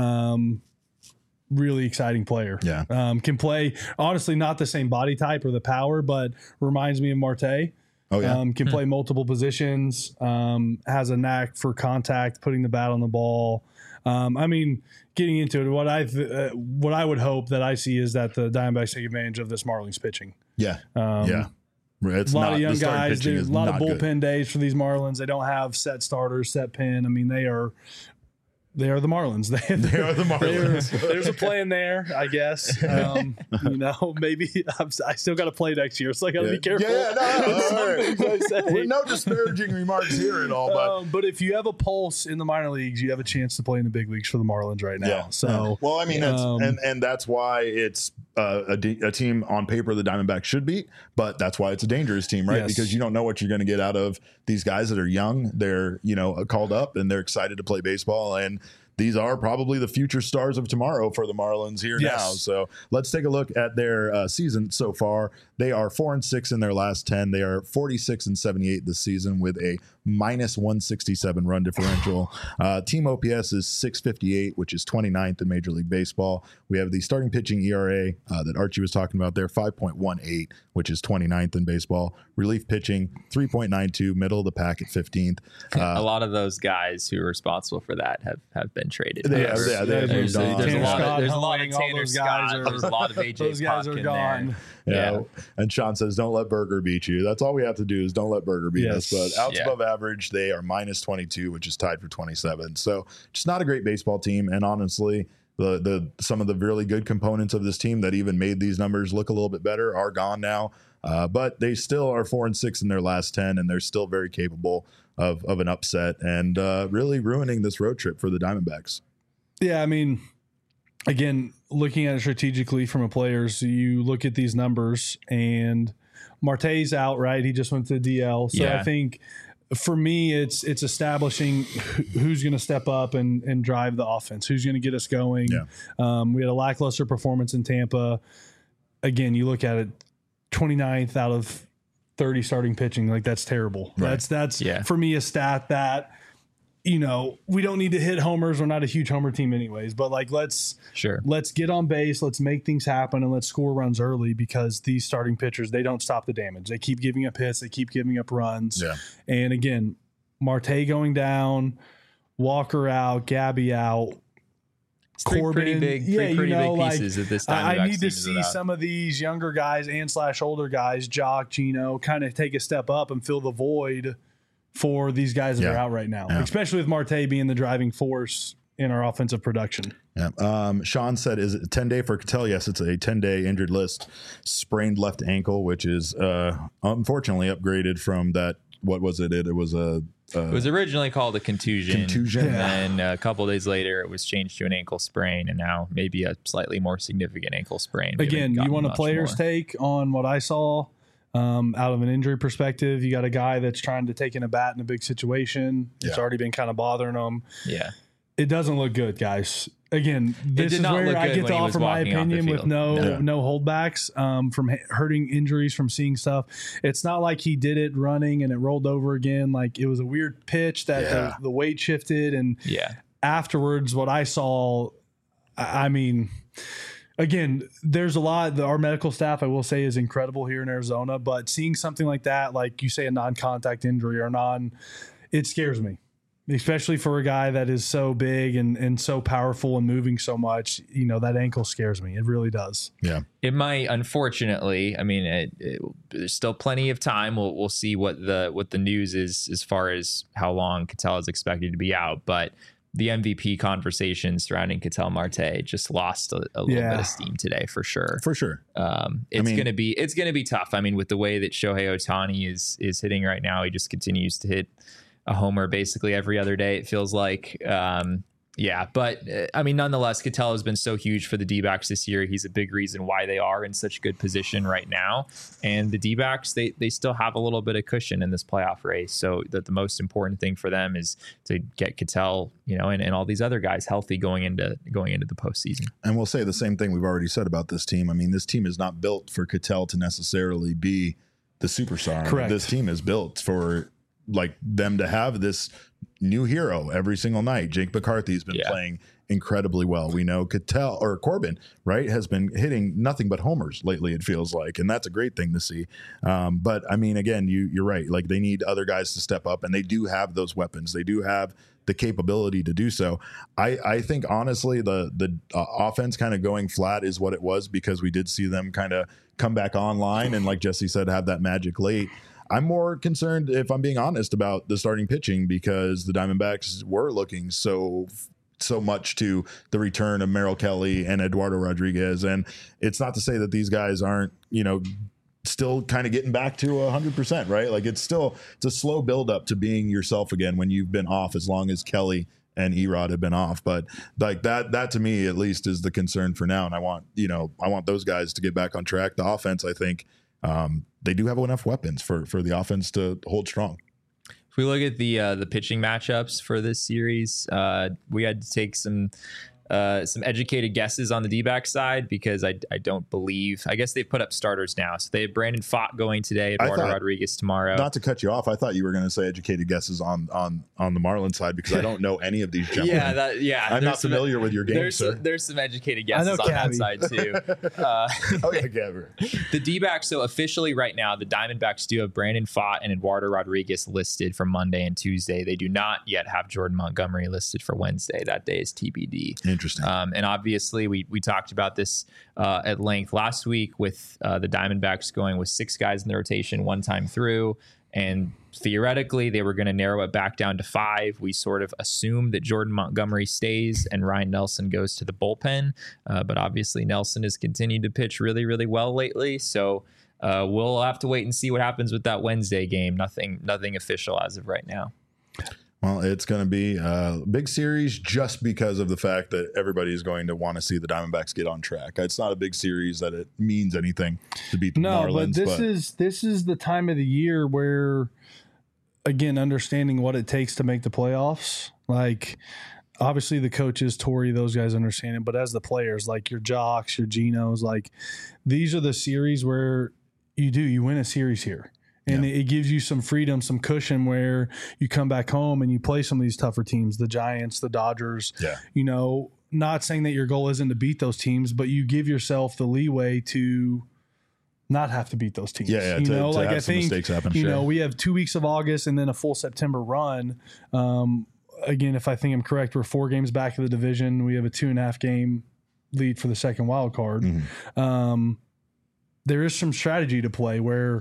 Um, really exciting player. Yeah. Um, can play, honestly, not the same body type or the power, but reminds me of Marte. Oh yeah, Um, can play multiple positions. Um, has a knack for contact, putting the bat on the ball. Um, I mean, getting into it, what I th- uh, what I would hope that I see is that the Diamondbacks take advantage of this Marlins pitching. yeah, Um, yeah. It's a lot not, of young the starting guys. pitching There's is a lot of not bullpen good. days for these Marlins. They don't have set starters, set pin. I mean, they are they are the Marlins. They, They are the Marlins. they're- there's a plan there, I guess. Um, you know, maybe I'm, I still got to play next year, so I got to Yeah. be careful. Yeah, no, no, with some all right. things I say. Well, no disparaging remarks here at all, but Um, but if you have a pulse in the minor leagues, you have a chance to play in the big leagues for the Marlins right now. yeah. So, well, I mean, it's, um, and and that's why it's uh, a, de- a team on paper the Diamondbacks should beat, but that's why it's a dangerous team, right? Yes. Because you don't know what you're going to get out of these guys that are young. They're you know called up and they're excited to play baseball, and these are probably the future stars of tomorrow for the Marlins here Yes. now. So let's take a look at their uh, season so far. They are four and six in their last ten. They are forty-six and seventy-eight this season with a minus one sixty-seven run differential. Uh, team O P S is six fifty-eight, which is twenty-ninth in Major League Baseball. We have the starting pitching E R A uh, that Archie was talking about there, five point one eight, which is twenty-ninth in baseball. Relief pitching, three point nine two, middle of the pack at fifteenth. Uh, a lot of those guys who are responsible for that have, have been traded. They have, However, yeah, they have there's, moved on. there's a Tanner lot of Scott, there's a lot of Helling, all Tanner those guys Scott. are- There's a lot of A J those guys Puck are in gone. there. Yeah. Yeah. And Sean says, don't let Berger beat you. That's all we have to do is don't let Berger beat Yes. us. But outs Yeah. above average, they are minus twenty-two, which is tied for twenty-seven. So just not a great baseball team. And honestly, the the some of the really good components of this team that even made these numbers look a little bit better are gone now. Uh, but they still are four and six in their last ten, and they're still very capable of of an upset and uh, really ruining this road trip for the Diamondbacks. Yeah, I mean, again, looking at it strategically from a player's, you look at these numbers, and Marte's out, right? He just went to D L. So Yeah. I think for me, it's it's establishing wh- who's going to step up and, and drive the offense, who's going to get us going. Yeah. Um, we had a lackluster performance in Tampa. Again, you look at it, twenty-ninth out of thirty starting pitching. Like, that's terrible. Right. That's, that's Yeah. for me, a stat that, you know, we don't need to hit homers. We're not a huge homer team anyways, but like, let's, Sure. let's get on base, let's make things happen, and let's score runs early, because these starting pitchers, they don't stop the damage. They keep giving up hits, they keep giving up runs. Yeah. And again, Marte going down, Walker out, Gabby out. It's three pretty Corbin, big, three yeah, you pretty know, big like, pieces that this time. I, I need to see some of these younger guys and slash older guys, Jock, Gino, kind of take a step up and fill the void for these guys that Yeah. are out right now, Yeah. especially with Marte being the driving force in our offensive production. Yeah. Um, Sean said, is it a ten day for Cattell? Yes, it's a ten day injured list. Sprained left ankle, which is uh, unfortunately upgraded from that. What was it? It, it was a. Uh, It was originally called a contusion. Contusion. And then a couple days later, it was changed to an ankle sprain, and now maybe a slightly more significant ankle sprain. We Again, haven't you gotten want a much player's more. take on what I saw um, out of an injury perspective. You got a guy that's trying to take in a bat in a big situation. It's Yeah. already been kind of bothering him. Yeah. It doesn't look good, guys. Again, this did is not where look I good get when to he was offer my walking off the opinion with field. no No. no holdbacks um, from h- hurting injuries, from seeing stuff. It's not like he did it running and it rolled over again. Like, it was a weird pitch that Yeah. the, the weight shifted, and Yeah. afterwards, what I saw, I I mean, again, there's a lot. Our medical staff, I will say, is incredible here in Arizona. But seeing something like that, like you say, a non-contact injury or non, it scares me, especially for a guy that is so big and, and so powerful and moving so much. You know, that ankle scares me. It really does. yeah. It might, unfortunately. I mean, it, it, there's still plenty of time. We'll we'll see what the what the news is as far as how long Cattell is expected to be out. But the M V P conversation surrounding Cattell Marte just lost a, a little Yeah. bit of steam today, for sure. For sure. Um, it's mean- gonna be it's gonna be tough. I mean, with the way that Shohei Ohtani is is hitting right now, he just continues to hit a homer basically every other day, it feels like. Um, yeah, but uh, I mean, nonetheless, Cattell has been so huge for the D-backs this year. He's a big reason why they are in such good position right now. And the D-backs, they they still have a little bit of cushion in this playoff race. So that the most important thing for them is to get Cattell, you know, and, and all these other guys healthy going into going into the postseason. And we'll say the same thing we've already said about this team. I mean, this team is not built for Cattell to necessarily be the superstar. Correct. This team is built for like them to have this new hero every single night. Jake McCarthy's been Yeah. playing incredibly well. We know Cattell or Corbin, right, has been hitting nothing but homers lately, it feels like, and that's a great thing to see. Um, but I mean, again, you you're right. Like, they need other guys to step up, and they do have those weapons. They do have the capability to do so. I, I think honestly, the the uh, offense kind of going flat is what it was, because we did see them kind of come back online and, like Jesse said, have that magic late. I'm more concerned, if I'm being honest, about the starting pitching, because the Diamondbacks were looking so so much to the return of Merrill Kelly and Eduardo Rodriguez. And it's not to say that these guys aren't, you know, still kind of getting back to one hundred percent, right? Like, it's still, it's a slow build up to being yourself again when you've been off as long as Kelly and Erod have been off. But like that, that to me at least is the concern for now. And I want, you know, I want those guys to get back on track. The offense, I think, um, they do have enough weapons for, for the offense to hold strong. If If we look at the uh, the pitching matchups for this series, uh, we had to take some uh, some educated guesses on the D-back side because I, I don't believe, I guess they've put up starters now. So they have Brandon Pfaadt going today, Eduardo thought, Rodriguez tomorrow. Not to cut you off, I thought you were going to say educated guesses on on on the Marlins side because I don't know any of these gentlemen. yeah, that, yeah. I'm not familiar some, with your game, there's sir. Some, there's some educated guesses on Cabby. that side too. Uh, oh yeah, Gabber. The D-backs, so officially right now, the Diamondbacks do have Brandon Pfaadt and Eduardo Rodriguez listed for Monday and Tuesday. They do not yet have Jordan Montgomery listed for Wednesday. That day is T B D. Interesting. Um, and obviously, we we talked about this uh, at length last week with uh, the Diamondbacks going with six guys in the rotation one time through. And theoretically, they were going to narrow it back down to five. We sort of assumed that Jordan Montgomery stays and Ryan Nelson goes to the bullpen. Uh, but obviously, Nelson has continued to pitch really, really well lately. So uh, we'll have to wait and see what happens with that Wednesday game. Nothing, nothing official as of right now. Well, it's going to be a big series just because of the fact that everybody is going to want to see the Diamondbacks get on track. It's not a big series that it means anything to beat the no, Marlins. but this but is this is the time of the year where, again, understanding what it takes to make the playoffs. Like, obviously the coaches, Torey, those guys understand it, but as the players, like your Jocks, your Genos, like these are the series where you do you win a series here. And yeah. it gives you some freedom, some cushion where you come back home and you play some of these tougher teams, the Giants, the Dodgers. Yeah. You know, not saying that your goal isn't to beat those teams, but you give yourself the leeway to not have to beat those teams. Yeah, yeah. You to, know, to like have I some think, mistakes happen. you sure. know, we have two weeks of August and then a full September run. Um, again, if I think I'm correct, we're four games back of the division. We have a two and a half game lead for the second wild card. Mm-hmm. Um, there is some strategy to play where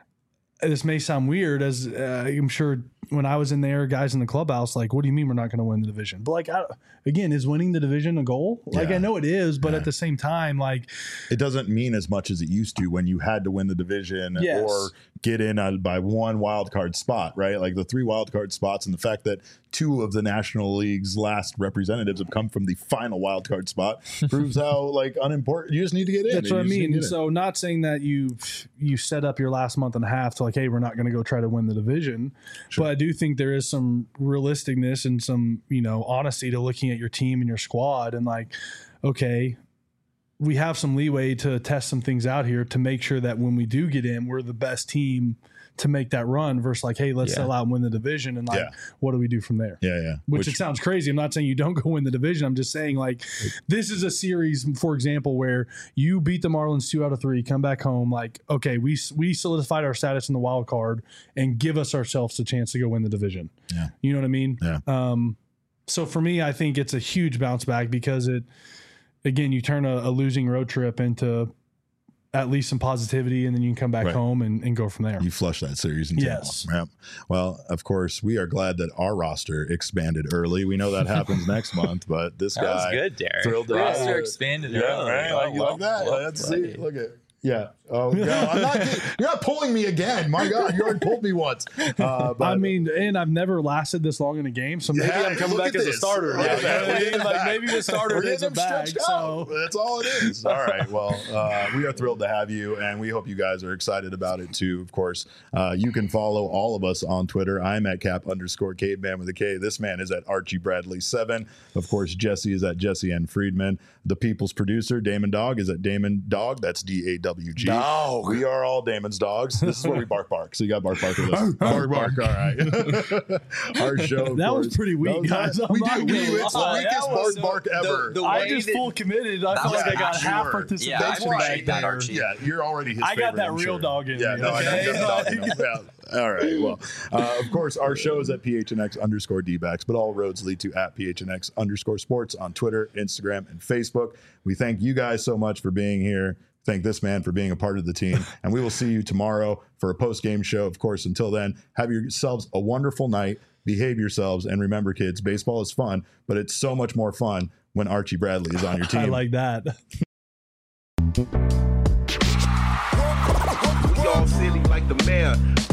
this may sound weird, as uh, I'm sure when I was in there, guys in the clubhouse, like, what do you mean we're not going to win the division? But like, I, again, is winning the division a goal? Like, yeah. I know it is, but yeah. at the same time, like, it doesn't mean as much as it used to when you had to win the division yes. or get in a, by one wild card spot, right? Like the three wild card spots and the fact that two of the National League's last representatives have come from the final wild card spot proves how like unimportant you just need to get in. That's what I mean. So in. not saying that you you set up your last month and a half to like, hey, we're not going to go try to win the division, sure. but I do think there is some realisticness and some, you know, honesty to looking at your team and your squad and like, okay, we have some leeway to test some things out here to make sure that when we do get in, we're the best team to make that run versus like, hey, let's yeah. sell out and win the division. And like, yeah. what do we do from there? Yeah, yeah. Which, Which it sounds crazy. I'm not saying you don't go win the division. I'm just saying like, this is a series, for example, where you beat the Marlins two out of three, come back home. Like, okay, we we solidified our status in the wild card and give us ourselves a chance to go win the division. Yeah. You know what I mean? Yeah. Um, so for me, I think it's a huge bounce back because it, again, you turn a, a losing road trip into at least some positivity, and then you can come back right. home and, and go from there. You flush that series into yes. Yep. Well, of course, we are glad that our roster expanded early. We know that happens next month, but this that guy was good, Derek. Thrilled to roster have expanded yeah, early. Right? Oh, Like, you well, like that? well Let's played. see. Look at yeah. Oh no, I'm not. You're not pulling me again. My God, you already pulled me once. Uh, but, I mean, and I've never lasted this long in a game, so maybe yeah, I'm coming back as this. a starter. Yeah, Yeah, yeah, like back. maybe the starter We're is a getting them bag. stretched So out. That's all it is. All right. Well, uh, we are thrilled to have you, and we hope you guys are excited about it too. Of course, uh, you can follow all of us on Twitter. I'm at cap underscore caveman with a K. This man is at Archie Bradley seven. Of course, Jesse is at Jesse N. Friedman. The People's producer, Damon Dog, is at Damon Dog. That's D A W G. Dog. We are all Damon's dogs. This is where we bark bark. So you got bark bark with us. bark bark. All right. Our show. that course, was pretty weak, was guys. nice. I'm We not do. We, gonna it's the lie. weakest That bark was bark ever. the I way just that- full committed. I That felt was like I got actually half word. participation. Yeah, I appreciate back that, there. Archie. Yeah, you're already his I got favorite, that I'm real sure. dog in Yeah, me, no, I okay? know. Dog in me. Yeah. All right. Well, uh, of course, our show is at P H N X underscore D-backs, but all roads lead to at P H N X underscore sports on Twitter, Instagram, and Facebook. We thank you guys so much for being here. Thank this man for being a part of the team. And we will see you tomorrow for a post-game show. Of course, until then, have yourselves a wonderful night. Behave yourselves. And remember, kids, baseball is fun, but it's so much more fun when Archie Bradley is on your team. I like that. We all silly like the mayor.